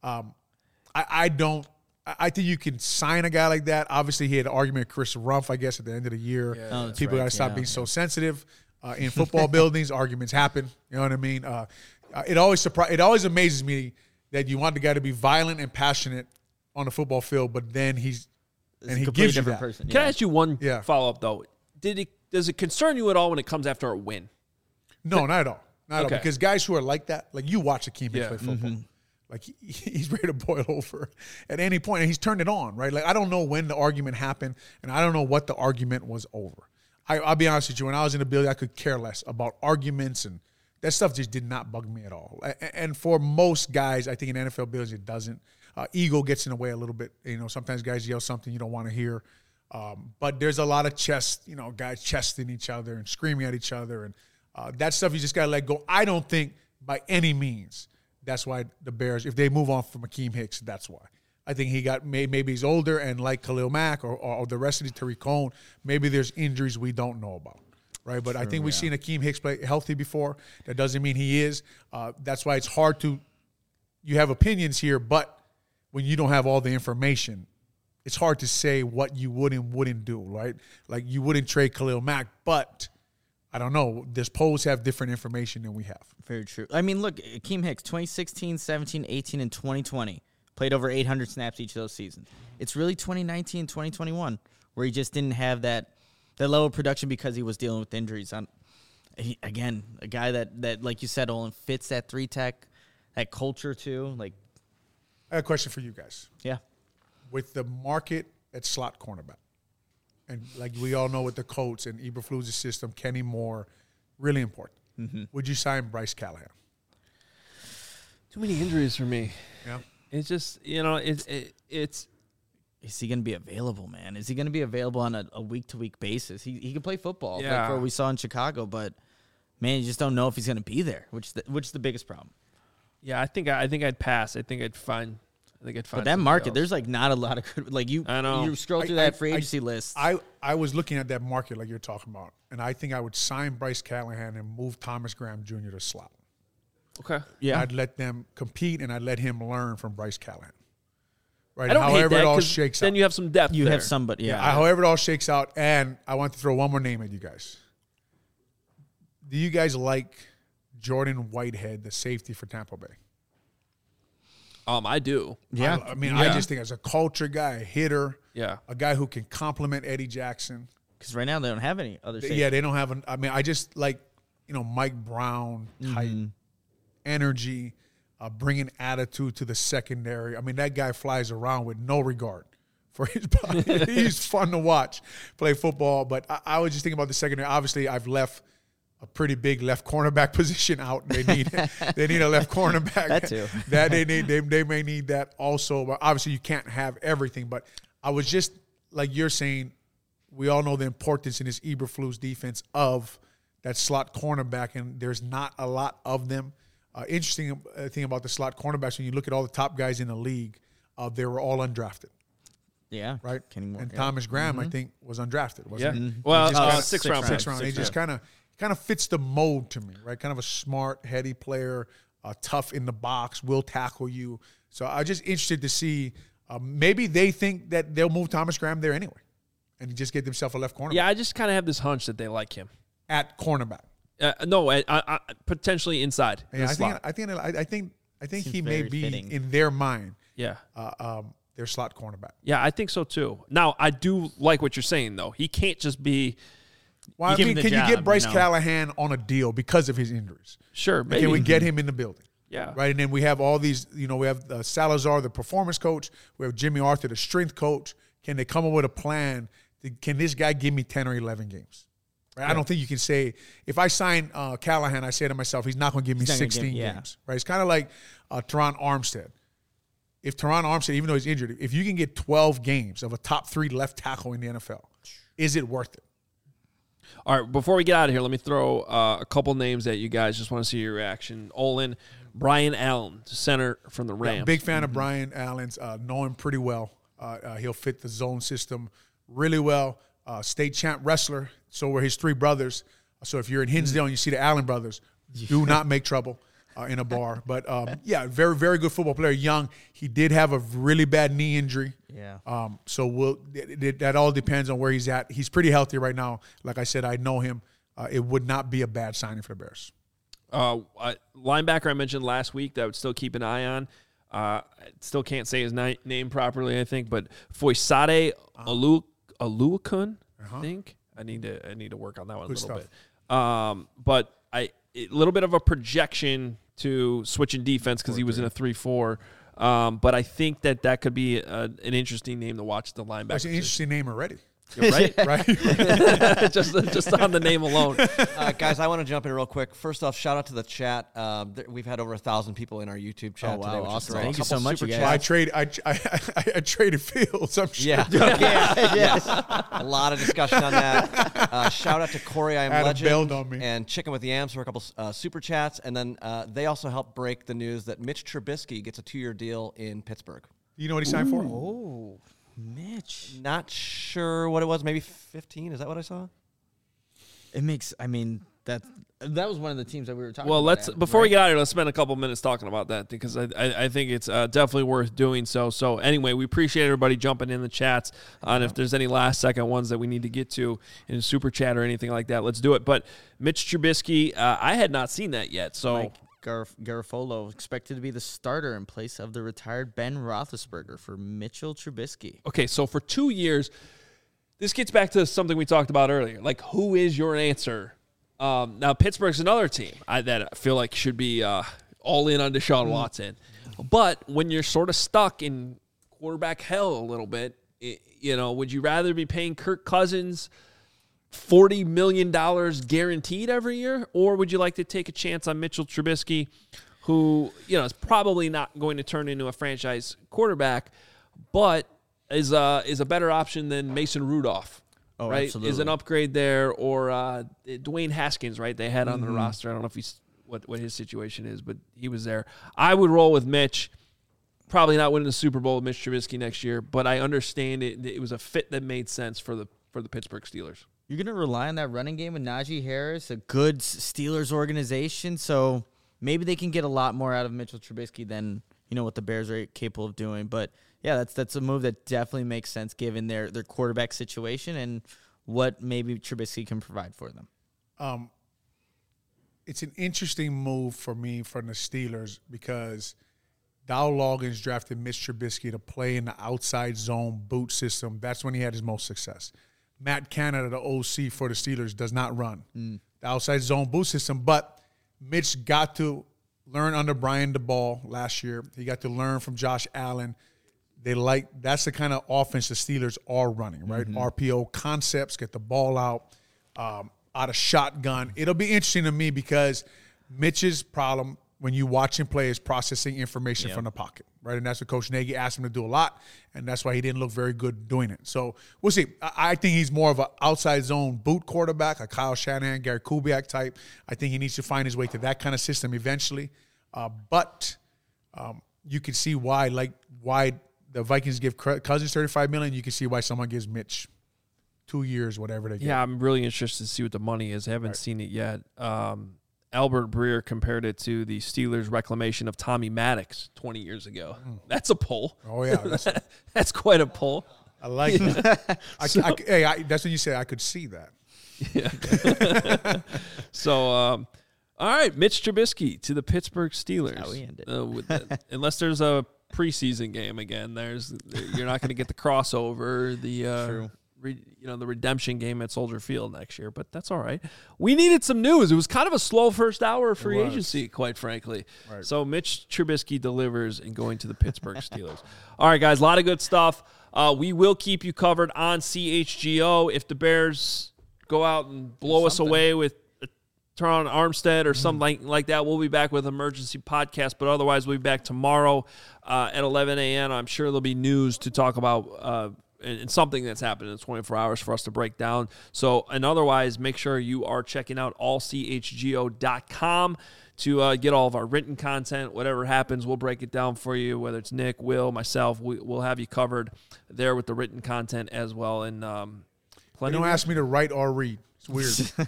I think you can sign a guy like that. Obviously, he had an argument with Chris Rumph, I guess, at the end of the year. Yeah, people got to stop being so sensitive. In football buildings, arguments happen. You know what I mean? It always amazes me that you want the guy to be violent and passionate on the football field, but then he gives you that. Person. Can I ask you one follow-up, though? Does it concern you at all when it comes after a win? No, not at all. Not at all. Because guys who are like that, like you watch Akeem Hicks play football. Like he's ready to boil over at any point, and he's turned it on, right? Like I don't know when the argument happened, and I don't know what the argument was over. I'll be honest with you. When I was in the building, I could care less about arguments, and that stuff just did not bug me at all. And for most guys, I think in NFL buildings, it doesn't. Ego gets in the way a little bit. Sometimes guys yell something you don't want to hear. But there's a lot of guys chesting each other and screaming at each other. And that stuff you just got to let go. I don't think by any means that's why the Bears, if they move on from Akeem Hicks, that's why. I think maybe he's older, and like Khalil Mack or the rest of the Tariq Cohen, maybe there's injuries we don't know about. Right, but I think we've seen Akeem Hicks play healthy before. That doesn't mean he is. That's why it's hard to – you have opinions here, but when you don't have all the information, it's hard to say what you would and wouldn't do, right? Like you wouldn't trade Khalil Mack, but I don't know. Does Pose have different information than we have? Very true. I mean, look, Akeem Hicks, 2016, 17, 18, and 2020, played over 800 snaps each of those seasons. It's really 2019 and 2021 where he just didn't have that level of production because he was dealing with injuries. Again, a guy that like you said, Olin, fits that 3-tech, that culture too. Like, I have a question for you guys. Yeah. With the market at slot cornerback, and like we all know with the Colts and Eberflus' system, Kenny Moore, really important. Would you sign Bryce Callahan? Too many injuries for me. Yeah. It's just, it's Is he going to be available, man? Is he going to be available on a week-to-week basis? He can play football, Yeah. like what we saw in Chicago, but man, you just don't know if he's going to be there, which is the biggest problem. yeah, I think I'd pass. I think I'd find But that somebody market, else. there's like not a lot of good. Like I know. you scroll through I- that free I- agency list. I was looking at that market like you're talking about, and I think I would sign Bryce Callahan and move Thomas Graham Jr. to slot. Okay. yeah, I'd let them compete, and I'd let him learn from Bryce Callahan. Right. I don't hate however that it all 'cause shakes then out. you have some depth. you there. have somebody. Yeah, However it all shakes out, and I want to throw one more name at you guys. Do you guys like Jordan Whitehead, the safety for Tampa Bay? I do. yeah. I mean, I just think as a culture guy, a hitter, Yeah. a guy who can complement Eddie Jackson. Because right now they don't have any other. Yeah, they don't have I mean, I just like, Mike Brown type energy, bringing attitude to the secondary. I mean, that guy flies around with no regard for his body. He's fun to watch play football. But I was just thinking about the secondary. Obviously, I've left a pretty big left cornerback position out. They need a left cornerback. That too. That they may need that also. But obviously, you can't have everything. But I was just like you're saying. We all know the importance in this Eberflus defense of that slot cornerback, and there's not a lot of them. Interesting thing about the slot cornerbacks, when you look at all the top guys in the league, they were all undrafted, yeah, right? Kenny Moore, and yeah. Thomas Graham, I think, was undrafted, Yeah. wasn't he? Well, He just kinda- sixth round. Sixth round. He just kind of fits the mold to me, right? Kind of a smart, heady player, tough in the box, will tackle you. So I'm just interested to see. Maybe they think that they'll move Thomas Graham there anyway, and just get themselves a left cornerback. Yeah, I just kind of have this hunch that they like him. At cornerback. No, I potentially inside. the Yeah, slot. I think Seems he may very be fitting. in their mind Yeah. their slot cornerback. Yeah, I think so too. Now, I do like what you're saying, though. He can't just be, Well, I give him mean, the can you job, get Bryce you know? Callahan on a deal because of his injuries? sure, maybe. Can we get him in the building? Yeah. Right, and then we have all these. We have Salazar, the performance coach. We have Jimmy Arthur, the strength coach. Can they come up with a plan? Can this guy give me 10 or 11 games? Right? I don't think you can say, if I sign Callahan, I say to myself, he's not going to give me He's not gonna 16 give- games. Right? It's kind of like Teron Armstead. If Teron Armstead, even though he's injured, if you can get 12 games of a top 3 left tackle in the NFL, is it worth it? All right, before we get out of here, let me throw a couple names at you guys. Just want to see your reaction. Olin, Brian Allen, center from the Rams. Big fan of Brian Allen's. Know him pretty well. He'll fit the zone system really well. State champ wrestler. So were his 3 brothers. So if you're in Hinsdale and you see the Allen brothers, do not make trouble in a bar. But, yeah, very, very good football player. Young. He did have a really bad knee injury. Yeah. So that all depends on where he's at. He's pretty healthy right now. Like I said, I know him. It would not be a bad signing for the Bears. Linebacker I mentioned last week that I would still keep an eye on. I still can't say his name properly, I think, but Foysade Oluokun, I think. I need to work on that one Good a little stuff. bit. But a little bit of a projection to switch in defense because he was in a 3-4. But I think that could be an interesting name to watch the linebacker. That's an interesting name already. You're right? Right? just on the name alone. Guys, I want to jump in real quick. First off, shout out to the chat. We've had over 1,000 people in our YouTube chat Oh, wow, today, which awesome. is great. Thank you Couple so much, super you guys. chats. I traded Fields. I'm sure. Yeah. Yes. A lot of discussion on that. Shout out to Corey, I Am Adam Legend, bailed on me. and Chicken with Yams for a couple super chats. And then they also helped break the news that Mitch Trubisky gets a 2-year deal in Pittsburgh. You know what he signed for? Oh, Mitch. Not sure what it was. Maybe 15. Is that what I saw? It makes. I mean, that was one of the teams that we were talking. Well, about. let's before we get out of here, let's spend a couple minutes talking about that because I think it's definitely worth doing so. So anyway, we appreciate everybody jumping in the chats. And if there's any last second ones that we need to get to in super chat or anything like that, let's do it. But Mitch Trubisky, I had not seen that yet. So Mike Garafolo expected to be the starter in place of the retired Ben Roethlisberger for Mitchell Trubisky. okay, so for 2 years, this gets back to something we talked about earlier. Like, who is your answer? Now, Pittsburgh's another team that I feel like should be all in on Deshaun Watson. But when you're sort of stuck in quarterback hell a little bit, Would you rather be paying Kirk Cousins $40 million guaranteed every year, or would you like to take a chance on Mitchell Trubisky, who, is probably not going to turn into a franchise quarterback, but is a better option than Mason Rudolph? Oh, right? absolutely. Is an upgrade there, or Dwayne Haskins, right? They had on the roster. I don't know if he's what his situation is, but he was there. I would roll with Mitch. Probably not winning the Super Bowl with Mitch Trubisky next year, but I understand it. It was a fit that made sense for the Pittsburgh Steelers. You're going to rely on that running game with Najee Harris, a good Steelers organization, so maybe they can get a lot more out of Mitchell Trubisky than what the Bears are capable of doing. But yeah, that's a move that definitely makes sense given their quarterback situation and what maybe Trubisky can provide for them. It's an interesting move for me from the Steelers because Dow Loggins drafted Mitch Trubisky to play in the outside zone boot system. That's when he had his most success. Matt Canada, the OC for the Steelers, does not run the outside zone boot system, but Mitch got to learn under Brian DeBall last year. He got to learn from Josh Allen. That's the kind of offense the Steelers are running, right? RPO concepts, get the ball out of shotgun. It'll be interesting to me because Mitch's problem when you watch him play is processing information from the pocket, right? And that's what Coach Nagy asked him to do a lot, and that's why he didn't look very good doing it. So we'll see. I think he's more of an outside zone boot quarterback, a Kyle Shanahan, Gary Kubiak type. I think he needs to find his way to that kind of system eventually. But you can see why the Vikings give Cousins $35 million. You can see why someone gives Mitch 2 years, whatever they get. Yeah, I'm really interested to see what the money is. I haven't seen it yet. Albert Breer compared it to the Steelers' reclamation of Tommy Maddox 20 years ago. That's a pull. Oh, yeah. That's quite a pull. I like that. That's what you said. I could see that. Yeah. So, all right, Mitch Trubisky to the Pittsburgh Steelers. How we end it. Unless there's a preseason game again, you're not going to get the crossover. True. The redemption game at Soldier Field next year, but that's all right. We needed some news. It was kind of a slow first hour of free agency, quite frankly. Right. So Mitch Trubisky delivers in going to the Pittsburgh Steelers. All right, guys, a lot of good stuff. We will keep you covered on CHGO. If the Bears go out and blow us away with Teron Armstead or something like that, we'll be back with an emergency podcast. But otherwise, we'll be back tomorrow at 11 a.m. I'm sure there'll be news to talk about and something that's happened in 24 hours for us to break down. So, and otherwise, make sure you are checking out allchgo.com to get all of our written content. Whatever happens, we'll break it down for you, whether it's Nick, Will, myself. We'll have you covered there with the written content as well. And plenty. Don't ask me to write or read. It's weird.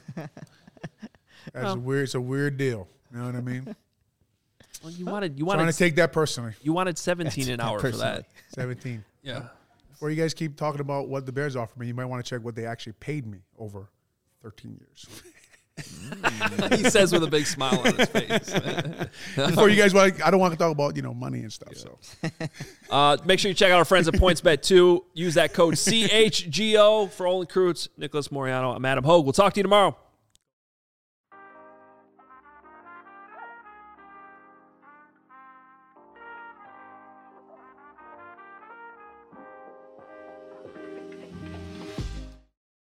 It's a weird deal. You know what I mean? Well, you wanted trying to take that personally. You wanted $17 an hour for that. 17. Yeah. Before you guys keep talking about what the Bears offered me, you might want to check what they actually paid me over 13 years. He says with a big smile on his face. Before you guys I don't want to talk about money and stuff. Yeah. So make sure you check out our friends at PointsBet 2. Use that code CHGO for Olin Kreutz, Nicholas Moriano. I'm Adam Hogue. We'll talk to you tomorrow.